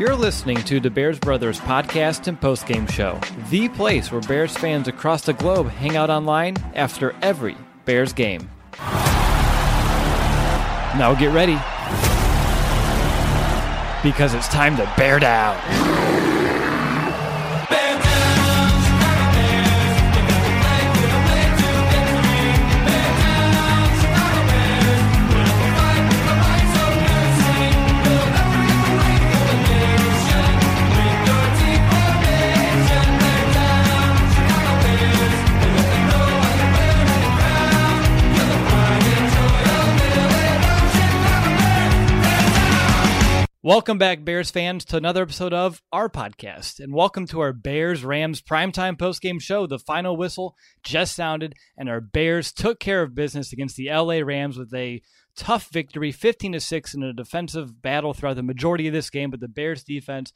You're listening to the Bears Brothers podcast and postgame show, the place where Bears fans across the globe hang out online after every Bears game. Now get ready, because it's time to bear down. Welcome back, Bears fans, to another episode of our podcast, and welcome to our Bears-Rams primetime postgame show. The final whistle just sounded, and our Bears took care of business against the LA Rams with a tough victory, 15-6 in a defensive battle throughout the majority of this game, but the Bears defense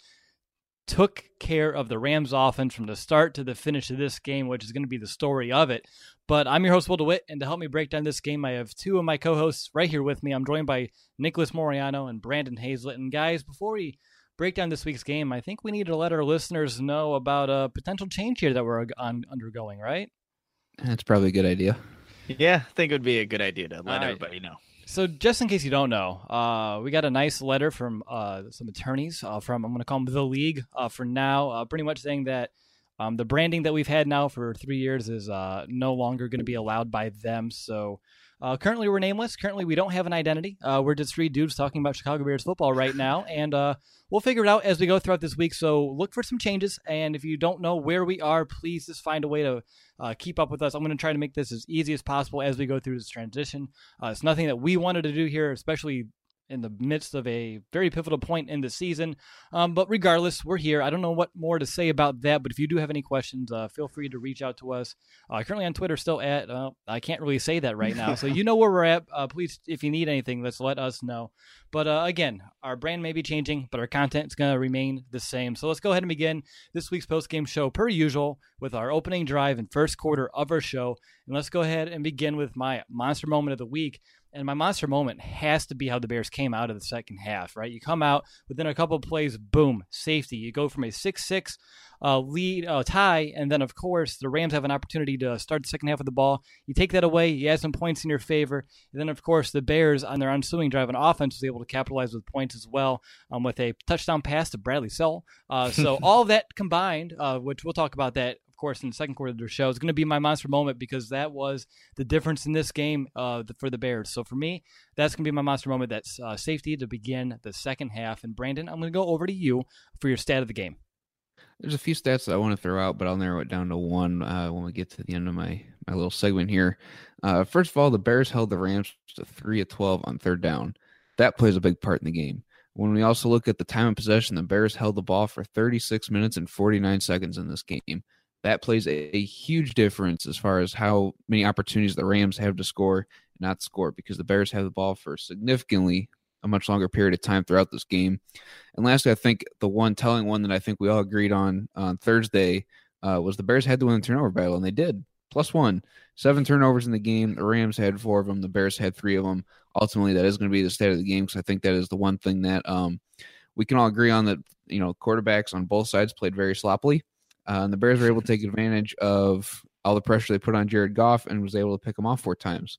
took care of the Rams offense from the start to the finish of this game, which is going to be the story of it. But I'm your host, Will DeWitt, and to help me break down this game, I have two of my co-hosts right here with me. I'm joined by Nicholas Moriano and Brandon Hazlett. And guys, before we break down this week's game, I think we need to let our listeners know about a potential change here that we're undergoing, right? That's probably a good idea. Yeah, I think it would be a good idea to let everybody know. So just in case you don't know, we got a nice letter from some attorneys from, I'm going to call them the league for now, pretty much saying that the branding that we've had now for 3 years is no longer going to be allowed by them. So currently we're nameless. Currently we don't have an identity. We're just three dudes talking about Chicago Bears football right now, and we'll figure it out as we go throughout this week. So look for some changes, and if you don't know where we are, please just find a way to keep up with us. I'm going to try to make this as easy as possible as we go through this transition. It's nothing that we wanted to do here, especially in the midst of a very pivotal point in the season. But regardless, we're here. I don't know what more to say about that, but if you do have any questions, feel free to reach out to us. Currently on Twitter, still at, I can't really say that right now. So you know where we're at. Please, if you need anything, let's let us know. But again, our brand may be changing, but our content is going to remain the same. So let's go ahead and begin this week's postgame show, per usual, with our opening drive and first quarter of our show. And let's go ahead and begin with my monster moment of the week. And my monster moment has to be how the Bears came out of the second half, right? You come out within a couple of plays, boom, safety. You go from a 6-6 lead tie, and then, of course, the Rams have an opportunity to start the second half of the ball. You take that away, you add some points in your favor, and then, of course, the Bears, on their ensuing drive on offense, was able to capitalize with points as well with a touchdown pass to Bradley Sowell. So all of that combined, which we'll talk about that, of course, in the second quarter of the show, is going to be my monster moment because that was the difference in this game for the Bears. So for me, that's going to be my monster moment. That's safety to begin the second half. And Brandon, I'm going to go over to you for your stat of the game. There's a few stats that I want to throw out, but I'll narrow it down to one when we get to the end of my little segment here. First of all, the Bears held the Rams to 3 of 12 on third down. That plays a big part in the game. When we also look at the time of possession, the Bears held the ball for 36 minutes and 49 seconds in this game. That plays a huge difference as far as how many opportunities the Rams have to score and not score, because the Bears have the ball for significantly a much longer period of time throughout this game. And lastly, I think the one telling one that I think we all agreed on Thursday was the Bears had to win the turnover battle, and they did. +1. 7 turnovers in the game. The Rams had 4 of them. The Bears had 3 of them. Ultimately, that is going to be the state of the game, because I think that is the one thing that we can all agree on, that quarterbacks on both sides played very sloppily. And the Bears were able to take advantage of all the pressure they put on Jared Goff and was able to pick him off 4 times.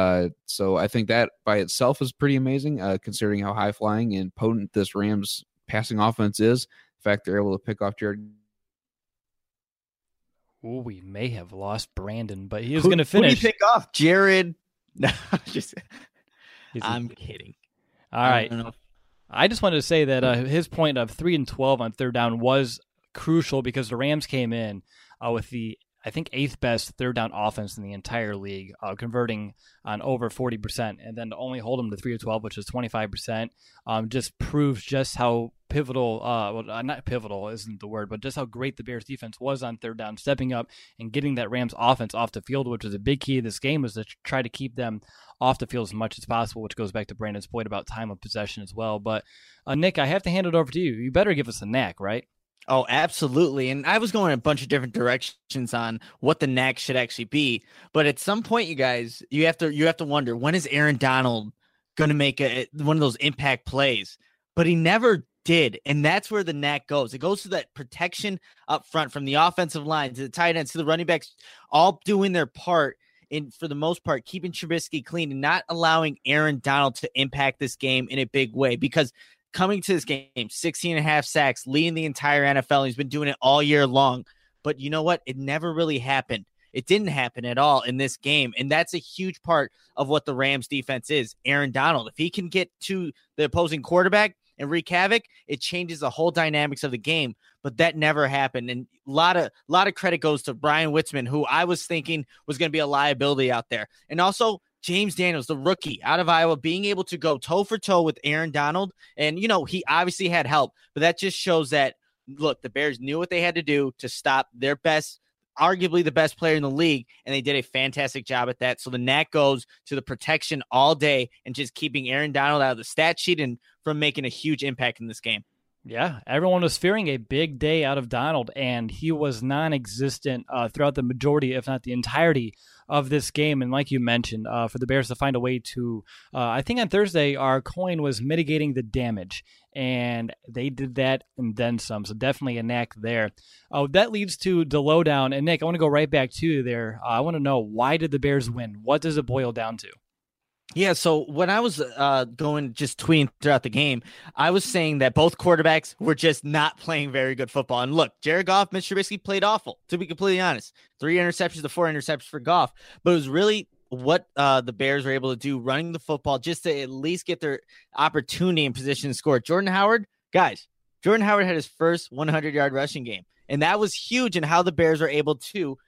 So I think that by itself is pretty amazing, considering how high-flying and potent this Rams passing offense is. In fact, they're able to pick off Jared. Ooh, we may have lost Brandon, but he is going to finish. Who do you pick off? Jared? No, I'm kidding. All right. I just wanted to say that his point of 3 and 12 on third down was crucial, because the Rams came in with the, I think, 8th best third down offense in the entire league, converting on over 40%, and then to only hold them to 3 of 12, which is 25%, just proves just how pivotal, not pivotal isn't the word, but just how great the Bears defense was on third down, stepping up and getting that Rams offense off the field, which was a big key of this game, was to try to keep them off the field as much as possible, which goes back to Brandon's point about time of possession as well. But Nick, I have to hand it over to you. You better give us a knack, right? Oh, absolutely. And I was going a bunch of different directions on what the knack should actually be. But at some point, you guys, you have to wonder, when is Aaron Donald going to make one of those impact plays? But he never did. And that's where the knack goes. It goes to that protection up front from the offensive line to the tight ends to the running backs, all doing their part in, for the most part, keeping Trubisky clean and not allowing Aaron Donald to impact this game in a big way. Because coming to this game, 16 and a half sacks, leading the entire NFL. He's been doing it all year long. But you know what? It never really happened. It didn't happen at all in this game. And that's a huge part of what the Rams defense is. Aaron Donald, if he can get to the opposing quarterback and wreak havoc, it changes the whole dynamics of the game. But that never happened. And a lot of credit goes to Brian Witzman, who I was thinking was going to be a liability out there. And also James Daniels, the rookie out of Iowa, being able to go toe for toe with Aaron Donald. And, you know, he obviously had help, but that just shows that, look, the Bears knew what they had to do to stop their best, arguably the best player in the league, and they did a fantastic job at that. So the knack goes to the protection all day and just keeping Aaron Donald out of the stat sheet and from making a huge impact in this game. Yeah, everyone was fearing a big day out of Donald, and he was non-existent throughout the majority, if not the entirety, of this game. And like you mentioned, for the Bears to find a way to, I think on Thursday, our coin was mitigating the damage, and they did that and then some. So definitely a knack there. That leads to the lowdown. And Nick, I want to go right back to you there. I want to know, why did the Bears win? What does it boil down to? Yeah, so when I was going just tweeting throughout the game, I was saying that both quarterbacks were just not playing very good football. And look, Jared Goff, Mitch Trubisky played awful, to be completely honest. 3 interceptions to 4 interceptions for Goff. But it was really what the Bears were able to do running the football just to at least get their opportunity in position to score. Jordan Howard had his first 100-yard rushing game. And that was huge in how the Bears were able to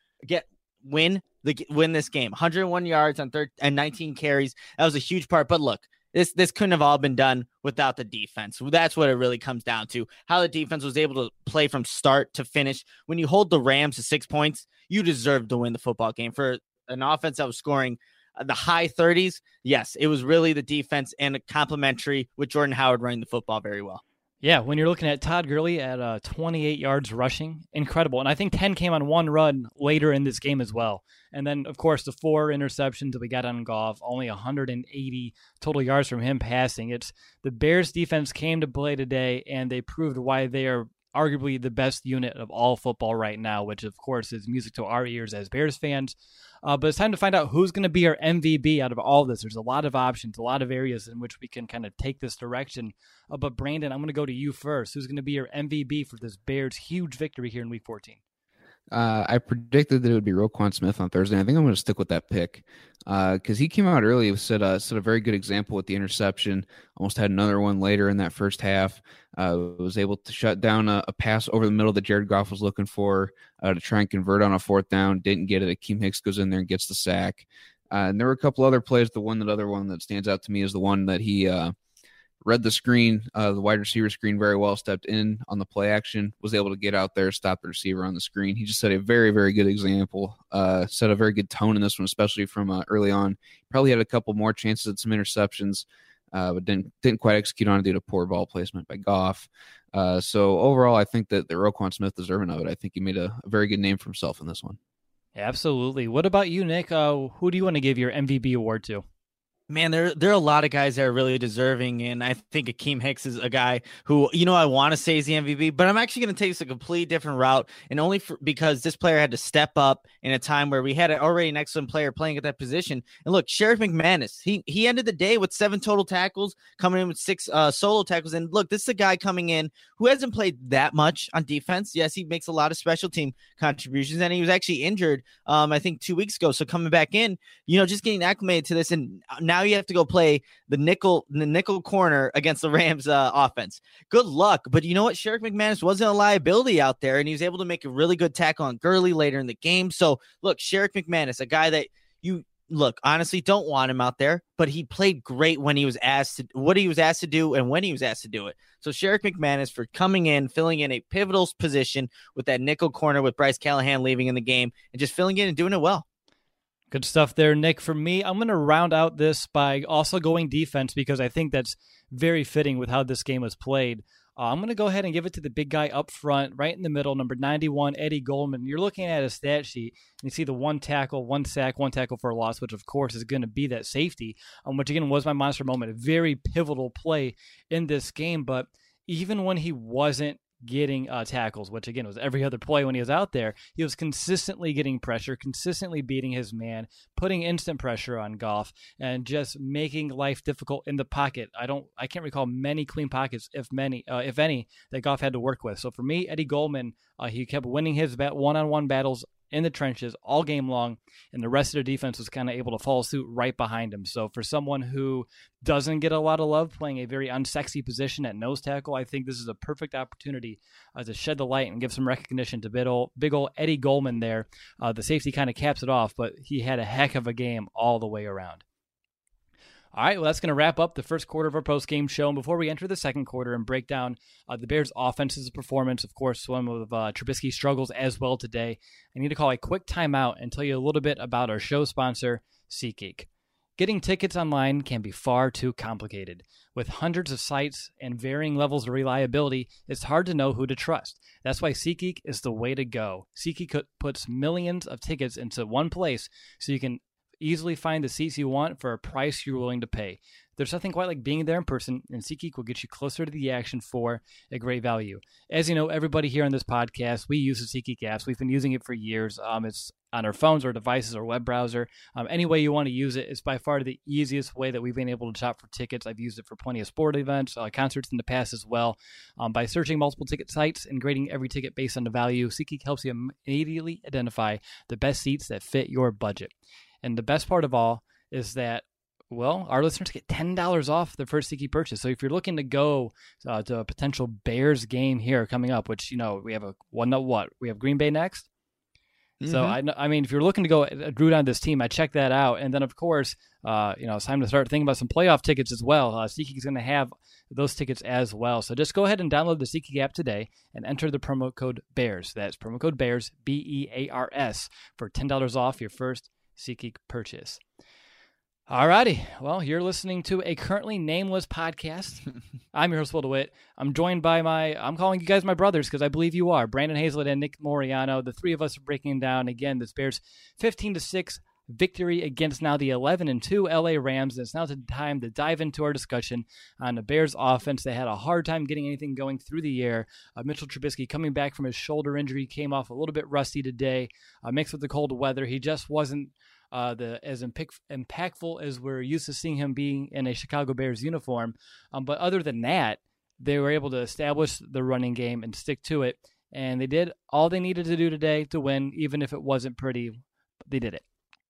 win this game. 101 yards on and 19 carries. That was a huge part. But look, this couldn't have all been done without the defense. That's what it really comes down to. How the defense was able to play from start to finish. When you hold the Rams to 6 points, you deserve to win the football game. For an offense that was scoring the high 30s, yes, it was really the defense and complementary with Jordan Howard running the football very well. Yeah, when you're looking at Todd Gurley at 28 yards rushing, incredible. And I think 10 came on one run later in this game as well. And then, of course, the 4 interceptions that we got on Goff, only 180 total yards from him passing. It's the Bears defense came to play today, and they proved why they are arguably the best unit of all football right now, which, of course, is music to our ears as Bears fans. But it's time to find out who's going to be our MVP out of all this. There's a lot of options, a lot of areas in which we can kind of take this direction. But Brandon, I'm going to go to you first. Who's going to be your MVP for this Bears' huge victory here in Week 14? I predicted that it would be Roquan Smith on Thursday. I think I'm going to stick with that pick because he came out early, set a very good example with the interception. Almost had another one later in that first half. Was able to shut down a pass over the middle that Jared Goff was looking for to try and convert on a 4th down. Didn't get it. Akeem Hicks goes in there and gets the sack. And there were a couple other plays. The other one that stands out to me is the one that he read the screen, the wide receiver screen very well, stepped in on the play action, was able to get out there, stop the receiver on the screen. He just set a very, very good example, set a very good tone in this one, especially from early on. Probably had a couple more chances at some interceptions, but didn't quite execute on it due to poor ball placement by Goff. So overall, I think that Roquan Smith deserving of it. I think he made a very good name for himself in this one. Absolutely. What about you, Nick? Who do you want to give your MVP award to? Man, there are a lot of guys that are really deserving, and I think Akeem Hicks is a guy who, I want to say is the MVP, but I'm actually going to take this a completely different route, and only because this player had to step up in a time where we had already an excellent player playing at that position. And look, Sheriff McManus, he ended the day with 7 total tackles, coming in with 6 solo tackles, and look, this is a guy coming in who hasn't played that much on defense. Yes, he makes a lot of special team contributions, and he was actually injured, I think 2 weeks ago, so coming back in, just getting acclimated to this, and now you have to go play the nickel corner against the Rams offense. Good luck. But you know what? Sheriff McManus wasn't a liability out there, and he was able to make a really good tackle on Gurley later in the game. So look, Sheriff McManus, a guy that you honestly don't want him out there, but he played great when he was asked to, what he was asked to do and when he was asked to do it. So Sheriff McManus for coming in, filling in a pivotal position with that nickel corner with Bryce Callahan leaving in the game and just filling in and doing it well. Good stuff there, Nick. For me, I'm going to round out this by also going defense because I think that's very fitting with how this game was played. I'm going to go ahead and give it to the big guy up front, right in the middle, number 91, Eddie Goldman. You're looking at a stat sheet, and you see the 1 tackle, 1 sack, 1 tackle for a loss, which, of course, is going to be that safety, which, again, was my monster moment. A very pivotal play in this game, but even when he wasn't getting tackles, which again was every other play when he was out there, he was consistently getting pressure, consistently beating his man, putting instant pressure on Goff, and just making life difficult in the pocket. I can't recall many clean pockets, if any, that Goff had to work with. So for me, Eddie Goldman, he kept winning his one-on-one battles in the trenches all game long, and the rest of their defense was kind of able to follow suit right behind him. So for someone who doesn't get a lot of love playing a very unsexy position at nose tackle, I think this is a perfect opportunity to shed the light and give some recognition to big old Eddie Goldman there. The safety kind of caps it off, but he had a heck of a game all the way around. All right, well, that's going to wrap up the first quarter of our post-game show. And before we enter the second quarter and break down the Bears' offense's performance, of course, some of Trubisky's struggles as well today, I need to call a quick timeout and tell you a little bit about our show sponsor, SeatGeek. Getting tickets online can be far too complicated. With hundreds of sites and varying levels of reliability, it's hard to know who to trust. That's why SeatGeek is the way to go. SeatGeek puts millions of tickets into one place so you can easily find the seats you want for a price you're willing to pay. There's nothing quite like being there in person, and SeatGeek will get you closer to the action for a great value. As you know, everybody here on this podcast, we use the SeatGeek apps. We've been using it for years. It's on our phones or devices or web browser. Any way you want to use it, it's by far the easiest way that we've been able to shop for tickets. I've used it for plenty of sport events, concerts in the past as well. By searching multiple ticket sites and grading every ticket based on the value, SeatGeek helps you immediately identify the best seats that fit your budget. And the best part of all is that, well, our listeners get $10 off their first SeatGeek purchase. So if you're looking to go to a potential Bears game here coming up, which, we have we have Green Bay next. Mm-hmm. So, I mean, if you're looking to go root on this team, I check that out. And then, of course, it's time to start thinking about some playoff tickets as well. SeatGeek is going to have those tickets as well. So just go ahead and download the SeatGeek app today and enter the promo code BEARS. That's promo code BEARS, BEARS, for $10 off your first SeatGeek purchase. Alrighty, well, you're listening to a currently nameless podcast. I'm your host, Will DeWitt. I'm joined by I'm calling you guys my brothers because I believe you are, Brandon Hazlett and Nick Moriano. The three of us are breaking down, again, this Bears 15-6 victory against now the 11-2 LA Rams. It's now time to dive into our discussion on the Bears offense. They had a hard time getting anything going through the air. Mitchell Trubisky, coming back from his shoulder injury, came off a little bit rusty today, mixed with the cold weather. He just wasn't as impactful as we're used to seeing him being in a Chicago Bears uniform. But other than that, they were able to establish the running game and stick to it. And they did all they needed to do today to win, even if it wasn't pretty. They did it.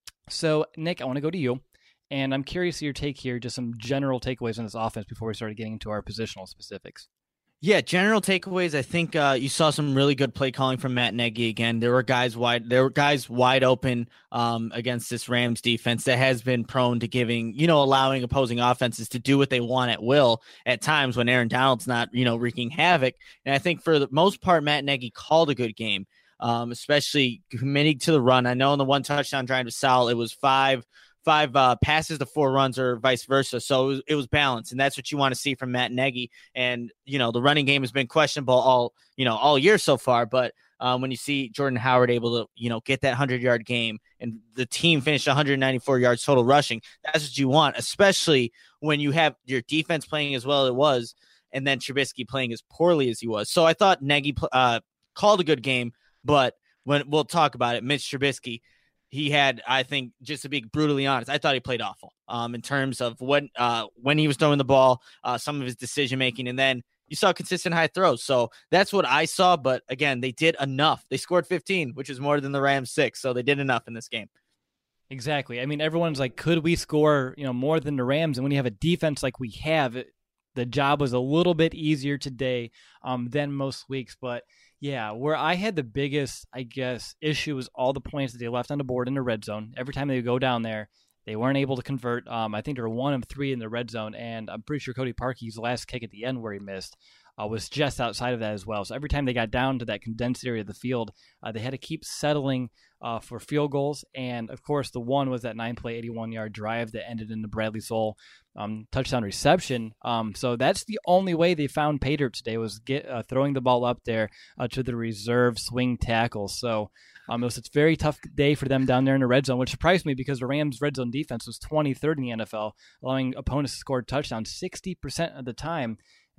So, Nick, I want to go to you. And I'm curious your take here, just some general takeaways on this offense before we start getting into our positional specifics. Yeah, general takeaways. I think you saw some really good play calling from Matt Nagy again. There were guys wide open against this Rams defense that has been prone to allowing opposing offenses to do what they want at will at times when Aaron Donald's not, wreaking havoc. And I think for the most part, Matt Nagy called a good game, especially committing to the run. I know in the one touchdown drive to Sal, it was five passes to 4 runs or vice versa. So it was balanced, and that's what you want to see from Matt Nagy. And, the running game has been questionable all year so far. But when you see Jordan Howard able to, get that 100-yard game and the team finished 194 yards total rushing, that's what you want, especially when you have your defense playing as well as it was and then Trubisky playing as poorly as he was. So I thought Nagy called a good game, but when we'll talk about it, Mitch Trubisky, he had, I think, just to be brutally honest, I thought he played awful in terms of when he was throwing the ball, some of his decision-making, and then you saw consistent high throws. So that's what I saw. But, again, they did enough. They scored 15, which is more than the Rams 6. So they did enough in this game. Exactly. I mean, everyone's like, could we score, more than the Rams? And when you have a defense like we have, the job was a little bit easier today than most weeks. But, yeah, where I had the biggest, I guess, issue was all the points that they left on the board in the red zone. Every time they would go down there, they weren't able to convert. I think they were 1 of 3 in the red zone, and I'm pretty sure Cody Parkey's last kick at the end where he missed was just outside of that as well. So every time they got down to that condensed area of the field, they had to keep settling for field goals. And, of course, the one was that 9-play, 81-yard drive that ended in the Bradley Soul touchdown reception. So that's the only way they found pay dirt today was throwing the ball up there to the reserve swing tackle. So it was a very tough day for them down there in the red zone, which surprised me because the Rams' red zone defense was 23rd in the NFL, allowing opponents to score touchdowns 60% of the time.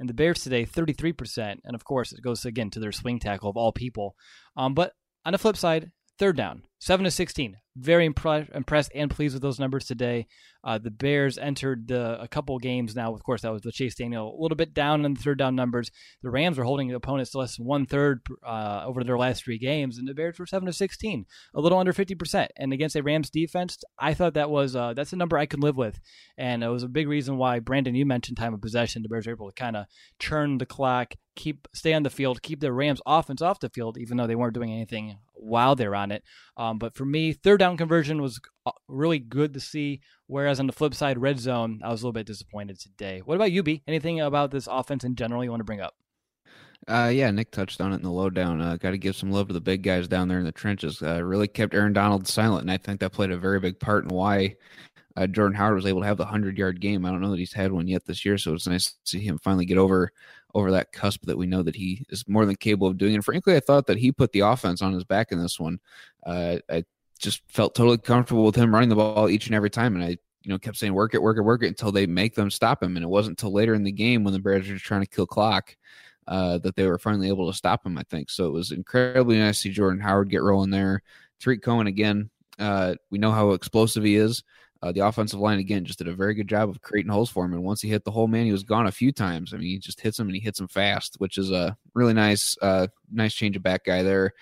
and the Bears today 33%. And of course, it goes again to their swing tackle of all people. But on the flip side, third down, 7-16. Very impressed and pleased with those numbers today. The Bears entered a couple games now. Of course, that was the Chase Daniel, a little bit down in the third down numbers. The Rams were holding the opponents to less than 1/3 over their last 3 games, and the Bears were 7-16, a little under 50%. And against a Rams defense, I thought that was that's a number I could live with. And it was a big reason why, Brandon, you mentioned time of possession. The Bears were able to kind of churn the clock, stay on the field, keep the Rams offense off the field, even though they weren't doing anything while they're on it. But for me, third down conversion was really good to see. Whereas on the flip side, red zone, I was a little bit disappointed today. What about you, B? Anything about this offense in general you want to bring up? Yeah, Nick touched on it in the lowdown. Got to give some love to the big guys down there in the trenches. Really kept Aaron Donald silent, and I think that played a very big part in why Jordan Howard was able to have the 100-yard game. I don't know that he's had one yet this year, so it's nice to see him finally get over that cusp that we know that he is more than capable of doing. And frankly, I thought that he put the offense on his back in this one. I just felt totally comfortable with him running the ball each and every time, and I kept saying work it until they make them stop him. And it wasn't until later in the game when the Bears were trying to kill clock that they were finally able to stop him, I think. So it was incredibly nice to see Jordan Howard get rolling there. Tariq Cohen, again, we know how explosive he is. The offensive line, again, just did a very good job of creating holes for him. And once he hit the hole, man, he was gone a few times. I mean, he just hits him, and he hits him fast, which is a really nice change of back guy there.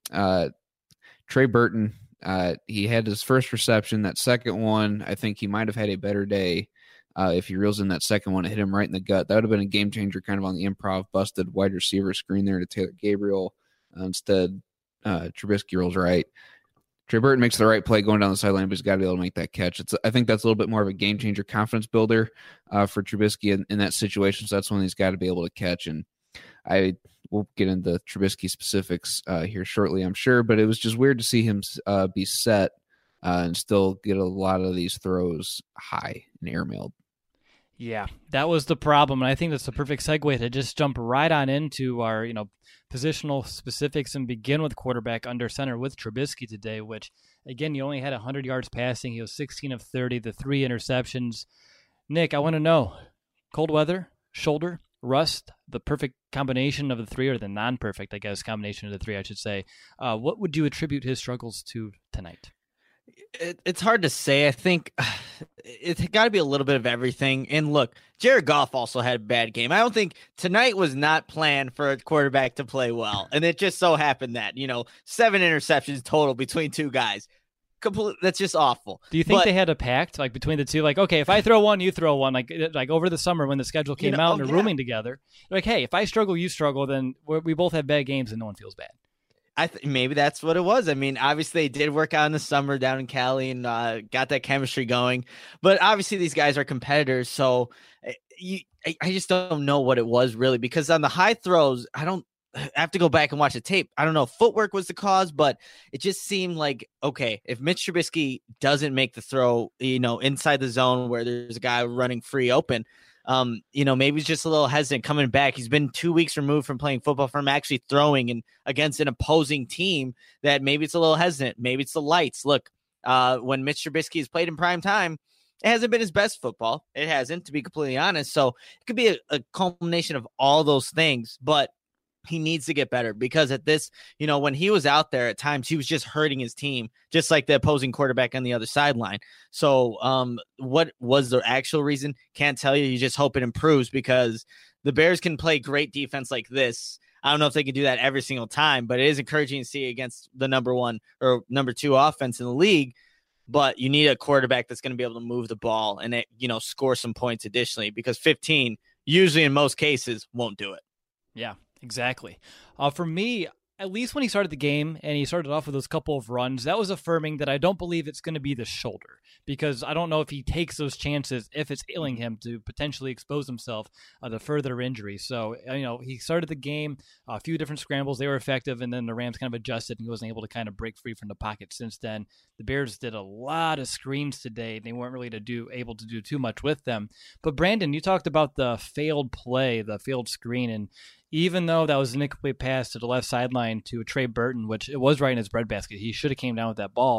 Trey Burton, he had his first reception. That second one, I think he might have had a better day if he reels in that second one. It hit him right in the gut. That would have been a game changer kind of on the improv, busted wide receiver screen there to Taylor Gabriel. Instead, Trubisky rolls right. Trey Burton makes the right play going down the sideline, but he's got to be able to make that catch. I think that's a little bit more of a game changer, confidence builder for Trubisky in that situation. So that's one he's got to be able to catch. And we'll get into Trubisky specifics here shortly, I'm sure. But it was just weird to see him be set and still get a lot of these throws high and airmailed. Yeah, that was the problem, and I think that's the perfect segue to just jump right on into our, positional specifics and begin with quarterback under center with Trubisky today, which, again, he only had 100 yards passing. He was 16 of 30, the 3 interceptions. Nick, I want to know, cold weather, shoulder, rust, the perfect combination of the 3, or the non-perfect, I guess, combination of the 3, I should say. What would you attribute his struggles to tonight? It's hard to say. I think it's got to be a little bit of everything. And look, Jared Goff also had a bad game. I don't think tonight was not planned for a quarterback to play well. And it just so happened that, 7 interceptions total between 2 guys. That's just awful. Do you think they had a pact between the two? Okay, if I throw one, you throw one. Like over the summer when the schedule came out and they're rooming together. Hey, if I struggle, you struggle, then we both have bad games and no one feels bad. Maybe that's what it was. I mean, obviously they did work out in the summer down in Cali and got that chemistry going. But obviously these guys are competitors, so I just don't know what it was really, because on the high throws, I have to go back and watch the tape. I don't know if footwork was the cause, but it just seemed like, okay, if Mitch Trubisky doesn't make the throw, inside the zone where there's a guy running free open, maybe he's just a little hesitant coming back. He's been 2 weeks removed from playing football, from actually throwing against an opposing team, that maybe it's a little hesitant. Maybe it's the lights. Look, when Mitch Trubisky has played in prime time, it hasn't been his best football. It hasn't, to be completely honest. So it could be a culmination of all those things, but he needs to get better, because at this, when he was out there at times, he was just hurting his team, just like the opposing quarterback on the other sideline. So what was the actual reason? Can't tell you. You just hope it improves, because the Bears can play great defense like this. I don't know if they can do that every single time, but it is encouraging to see against the number 1 or number 2 offense in the league. But you need a quarterback that's going to be able to move the ball and, score some points additionally, because 15, usually in most cases, won't do it. Yeah. Exactly. For me, at least when he started the game and he started off with those couple of runs, that was affirming that I don't believe it's going to be the shoulder, because I don't know if he takes those chances if it's ailing him to potentially expose himself to further injury. So, he started the game, a few different scrambles, they were effective, and then the Rams kind of adjusted and he wasn't able to kind of break free from the pocket since then. The Bears did a lot of screens today, and they weren't really able to do too much with them. But Brandon, you talked about the failed play, the failed screen, and even though that was an incomplete pass to the left sideline to Trey Burton, which it was right in his breadbasket, he should have came down with that ball.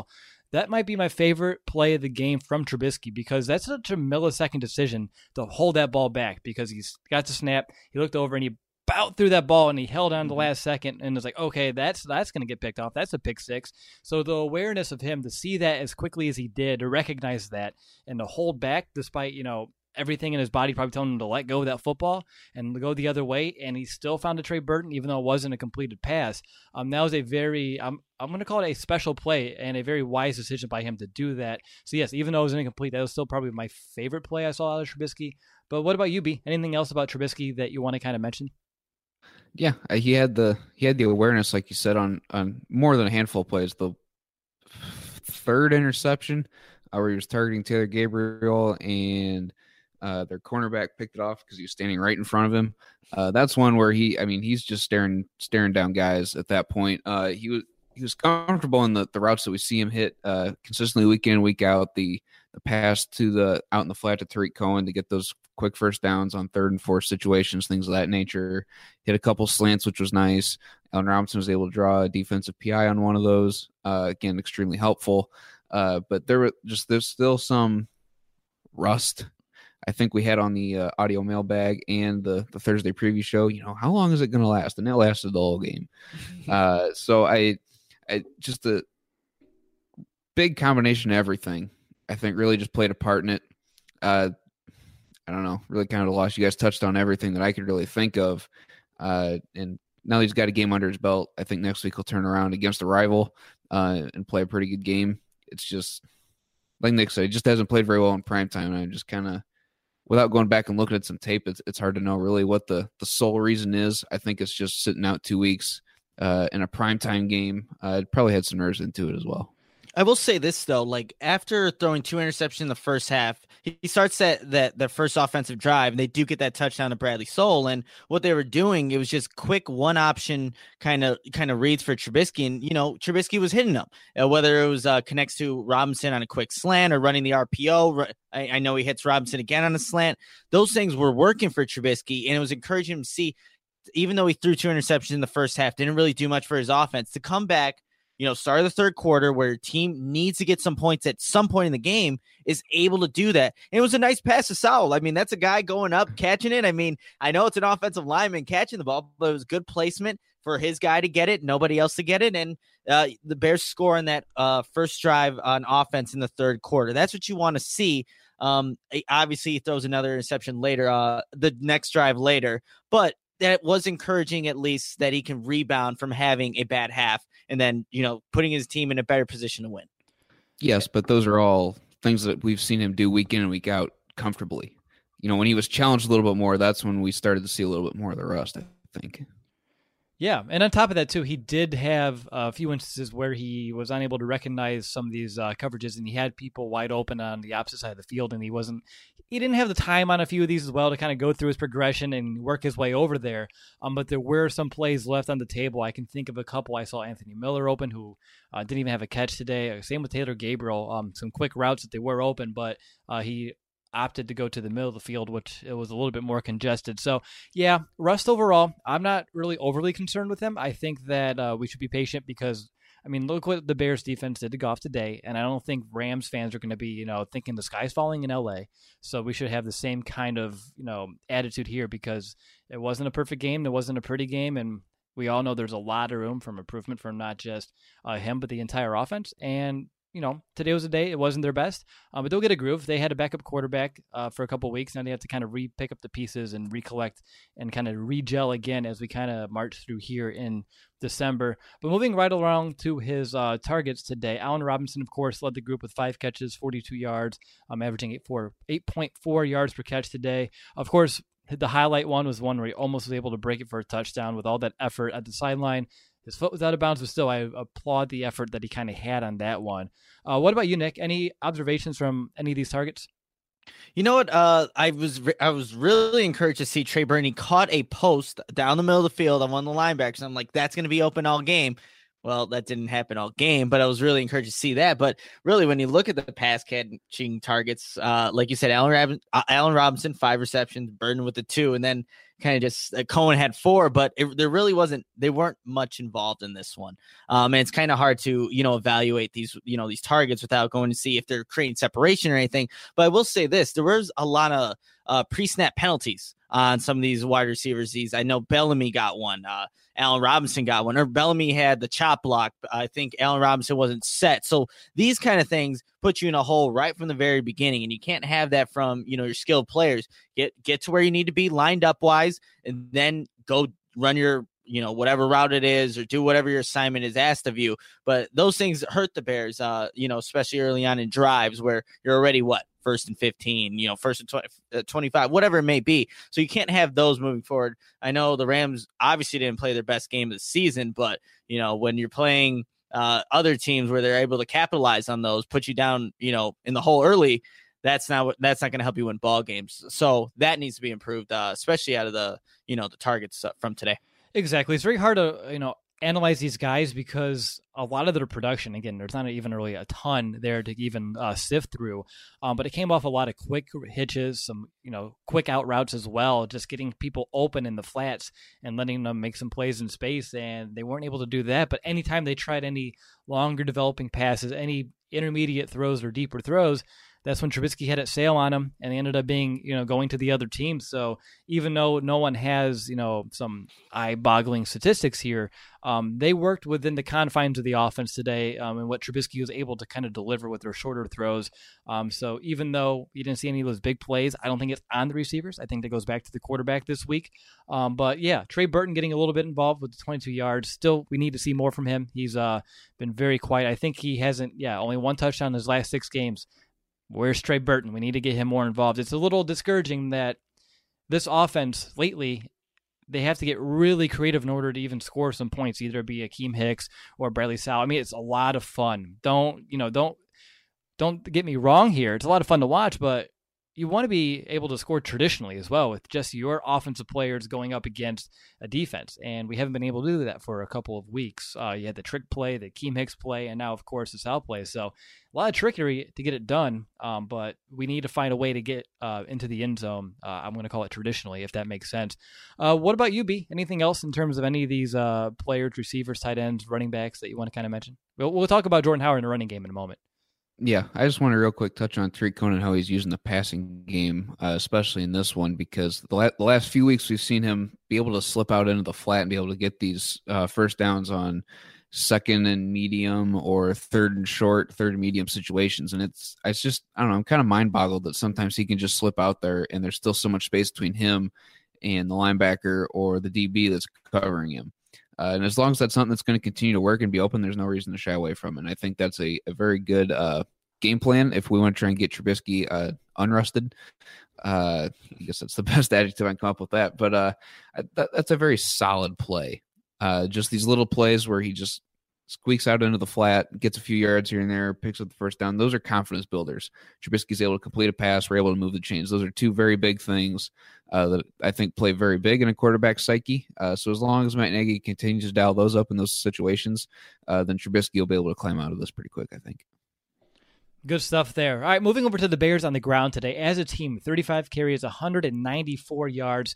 that might be my favorite play of the game from Trubisky, because that's such a millisecond decision to hold that ball back, because he's got the snap, he looked over and he bowed through that ball and he held on the last second and was like, okay, that's going to get picked off. That's a pick six. So the awareness of him to see that as quickly as he did, to recognize that and to hold back despite, everything in his body probably telling him to let go of that football and go the other way, and he still found a Trey Burton, even though it wasn't a completed pass. That was a very, I'm going to call it a special play and a very wise decision by him to do that. So yes, even though it was incomplete, that was still probably my favorite play I saw out of Trubisky. But what about you, B? Anything else about Trubisky that you want to kind of mention? Yeah, he had the awareness, like you said, on more than a handful of plays. The third interception, where he was targeting Taylor Gabriel and their cornerback picked it off because he was standing right in front of him. That's one where he's just staring down guys at that point. He was comfortable in the routes that we see him hit consistently week in and week out. The pass to the out in the flat to Tariq Cohen to get those quick first downs on 3rd and 4th situations, things of that nature. Hit a couple slants, which was nice. Allen Robinson was able to draw a defensive PI on one of those. Again, extremely helpful. But there's still some rust, I think, we had on the audio mailbag and the Thursday preview show. How long is it going to last? And it lasted the whole game. So I just a big combination of everything, I think, really just played a part in it. I don't know, really kind of lost. You guys touched on everything that I could really think of. And now he's got a game under his belt. I think next week he'll turn around against a rival and play a pretty good game. It's just, like Nick said, he just hasn't played very well in primetime. And I'm just kind of, without going back and looking at some tape, it's hard to know really what the sole reason is. I think it's just sitting out 2 weeks in a primetime game. It probably had some nerves into it as well. I will say this, though, like after throwing 2 interceptions in the first half, he starts that first offensive drive, and they do get that touchdown to Bradley Soul. And what they were doing, it was just quick one option kind of reads for Trubisky. And, Trubisky was hitting them, whether it was connects to Robinson on a quick slant or running the RPO. I know he hits Robinson again on a slant. Those things were working for Trubisky, and it was encouraging him to see, even though he threw 2 interceptions in the first half, didn't really do much for his offense, to come back, start of the 3rd quarter where your team needs to get some points at some point in the game, is able to do that. And it was a nice pass to Sowell. I mean, that's a guy going up, catching it. I mean, I know it's an offensive lineman catching the ball, but it was good placement for his guy to get it, nobody else to get it. And the Bears score on that first drive on offense in the 3rd quarter. That's what you want to see. Obviously, he throws another interception later, the next drive later, but that was encouraging, at least, that he can rebound from having a bad half and then, putting his team in a better position to win. Yes, but those are all things that we've seen him do week in and week out comfortably. When he was challenged a little bit more, that's when we started to see a little bit more of the rust, I think. Yeah, and on top of that, too, he did have a few instances where he was unable to recognize some of these coverages, and he had people wide open on the opposite side of the field, and he didn't have the time on a few of these as well to kind of go through his progression and work his way over there. But there were some plays left on the table. I can think of a couple. I saw Anthony Miller open, who didn't even have a catch today. Same with Taylor Gabriel. Some quick routes that they were open, but he opted to go to the middle of the field, which it was a little bit more congested. So yeah, rust overall, I'm not really overly concerned with him. I think that we should be patient because, look what the Bears defense did to Goff today. And I don't think Rams fans are going to be, thinking the sky's falling in LA. So we should have the same kind of, attitude here, because it wasn't a perfect game. It wasn't a pretty game. And we all know there's a lot of room for improvement from not just him, but the entire offense. And today was a day. It wasn't their best, but they'll get a groove. They had a backup quarterback for a couple of weeks. Now they have to kind of pick up the pieces and recollect and kind of re-gel again as we kind of march through here in December. But moving right along to his targets today, Allen Robinson, of course, led the group with 5 catches, 42 yards, averaging 8.4 yards per catch today. Of course, the highlight one was one where he almost was able to break it for a touchdown with all that effort at the sideline. His foot was out of bounds, but still, I applaud the effort that he kind of had on that one. What about you, Nick? Any observations from any of these targets? You know what? I was really encouraged to see Trey Burton. He caught a post down the middle of the field on one of the linebackers. I'm like, that's going to be open all game. Well, that didn't happen all game, but I was really encouraged to see that. But really, when you look at the pass catching targets, like you said, Allen Robinson, 5 receptions, Burton with the 2, and then kind of just Cohen had 4, but there really wasn't. They weren't much involved in this one, and it's kind of hard to evaluate these these targets without going to see if they're creating separation or anything. But I will say this: there was a lot of pre-snap penalties on some of these wide receivers. I know Bellamy got one. Allen Robinson got one, or Bellamy had the chop block. I think Allen Robinson wasn't set. So these kind of things put you in a hole right from the very beginning, and you can't have that from your skilled players. Get to where you need to be lined up wise, and then go run your whatever route it is, or do whatever your assignment is asked of you. But those things hurt the Bears, especially early on in drives where you're already first and 15, first and 20, 25, whatever it may be. So you can't have those moving forward. I know the Rams obviously didn't play their best game of the season, but when you're playing other teams where they're able to capitalize on those, put you down, in the hole early, that's not going to help you win ball games. So that needs to be improved, especially out of the targets from today. Exactly. It's very hard to, analyze these guys because a lot of their production, again, there's not even really a ton there to even sift through, but it came off a lot of quick hitches, some, quick out routes as well, just getting people open in the flats and letting them make some plays in space, and they weren't able to do that. But anytime they tried any longer developing passes, any intermediate throws or deeper throws, that's when Trubisky had it sail on them, and they ended up being, going to the other team. So even though no one has, some eye-boggling statistics here, they worked within the confines of the offense today, and what Trubisky was able to kind of deliver with their shorter throws. So even though you didn't see any of those big plays, I don't think it's on the receivers. I think that goes back to the quarterback this week. But yeah, Trey Burton getting a little bit involved with the 22 yards. Still, we need to see more from him. He's been very quiet. I think he hasn't, only one touchdown in his last 6 games. Where's Trey Burton? We need to get him more involved. It's a little discouraging that this offense lately, they have to get really creative in order to even score some points, either be Akeem Hicks or Bradley Sowell. I mean, it's a lot of fun. Don't get me wrong here. It's a lot of fun to watch, but you want to be able to score traditionally as well with just your offensive players going up against a defense. And we haven't been able to do that for a couple of weeks. You had the trick play, the Akeem Hicks play, and now, of course, the Sowell play. So a lot of trickery to get it done, but we need to find a way to get into the end zone. I'm going to call it traditionally, if that makes sense. What about you, B? Anything else in terms of any of these players, receivers, tight ends, running backs that you want to kind of mention? We'll talk about Jordan Howard in the running game in a moment. Yeah, I just want to real quick touch on Tariq Cohen and how he's using the passing game, especially in this one, because the last few weeks we've seen him be able to slip out into the flat and be able to get these first downs on second and medium or third and short, third and medium situations. And it's just, I don't know, I'm kind of mind boggled that sometimes he can just slip out there and there's still so much space between him and the linebacker or the DB that's covering him. And as long as that's something that's going to continue to work and be open, there's no reason to shy away from it. And I think that's a very good game plan if we want to try and get Trubisky unrusted. I guess that's the best adjective I can come up with that. But that's a very solid play. Just these little plays where he just squeaks out into the flat, gets a few yards here and there, picks up the first down. Those are confidence builders. Trubisky's able to complete a pass. We're able to move the chains. Those are 2 very big things that I think play very big in a quarterback's psyche. So as long as Matt Nagy continues to dial those up in those situations, then Trubisky will be able to climb out of this pretty quick, I think. Good stuff there. All right, moving over to the Bears on the ground today. As a team, 35 carries, 194 yards,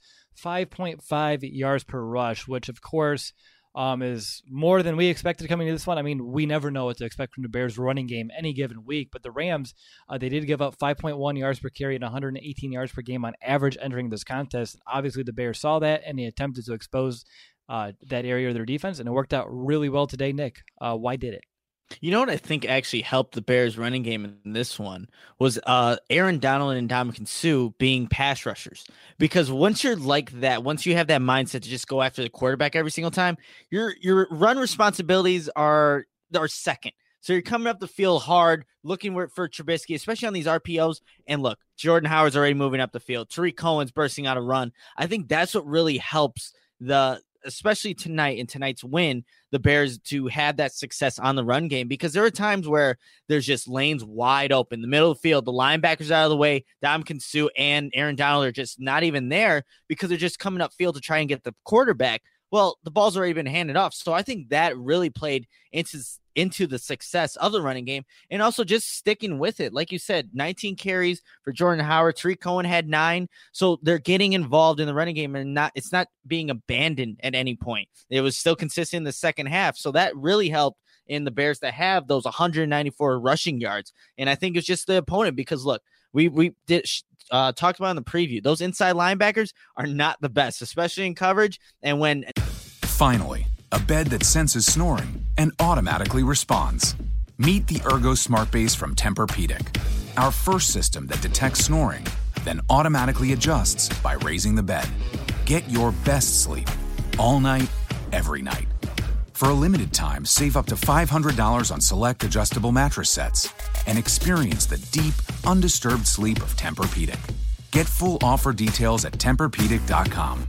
5.5 yards per rush, which, of course, is more than we expected coming to this one. I mean, we never know what to expect from the Bears running game any given week, but the Rams, they did give up 5.1 yards per carry and 118 yards per game on average entering this contest. Obviously, the Bears saw that, and they attempted to expose that area of their defense, and it worked out really well today. Nick, why did it? You know what I think actually helped the Bears running game in this one was Aaron Donald and Ndamukong Suh being pass rushers. Because once you're like that, once you have that mindset to just go after the quarterback every single time, your run responsibilities are second. So you're coming up the field hard, looking for Trubisky, especially on these RPOs. And look, Jordan Howard's already moving up the field. Tariq Cohen's bursting out a run. I think that's what really helps especially tonight in tonight's win, the Bears to have that success on the run game, because there are times where there's just lanes wide open, the middle of the field, the linebackers out of the way, Ndamukong Suh and Aaron Donald are just not even there because they're just coming up field to try and get the quarterback. Well, the ball's already been handed off. So I think that really played into the success of the running game, and also just sticking with it. Like you said, 19 carries for Jordan Howard. Tarik Cohen had 9. So they're getting involved in the running game, and it's not being abandoned at any point. It was still consistent in the second half. So that really helped in the Bears to have those 194 rushing yards. And I think it's just the opponent, because look, we did talked about in the preview, those inside linebackers are not the best, especially in coverage. And when finally, a bed that senses snoring and automatically responds. Meet the Ergo Smart Base from Tempur-Pedic, our first system that detects snoring, then automatically adjusts by raising the bed. Get your best sleep all night, every night. For a limited time, save up to $500 on select adjustable mattress sets and experience the deep, undisturbed sleep of Tempur-Pedic. Get full offer details at TempurPedic.com.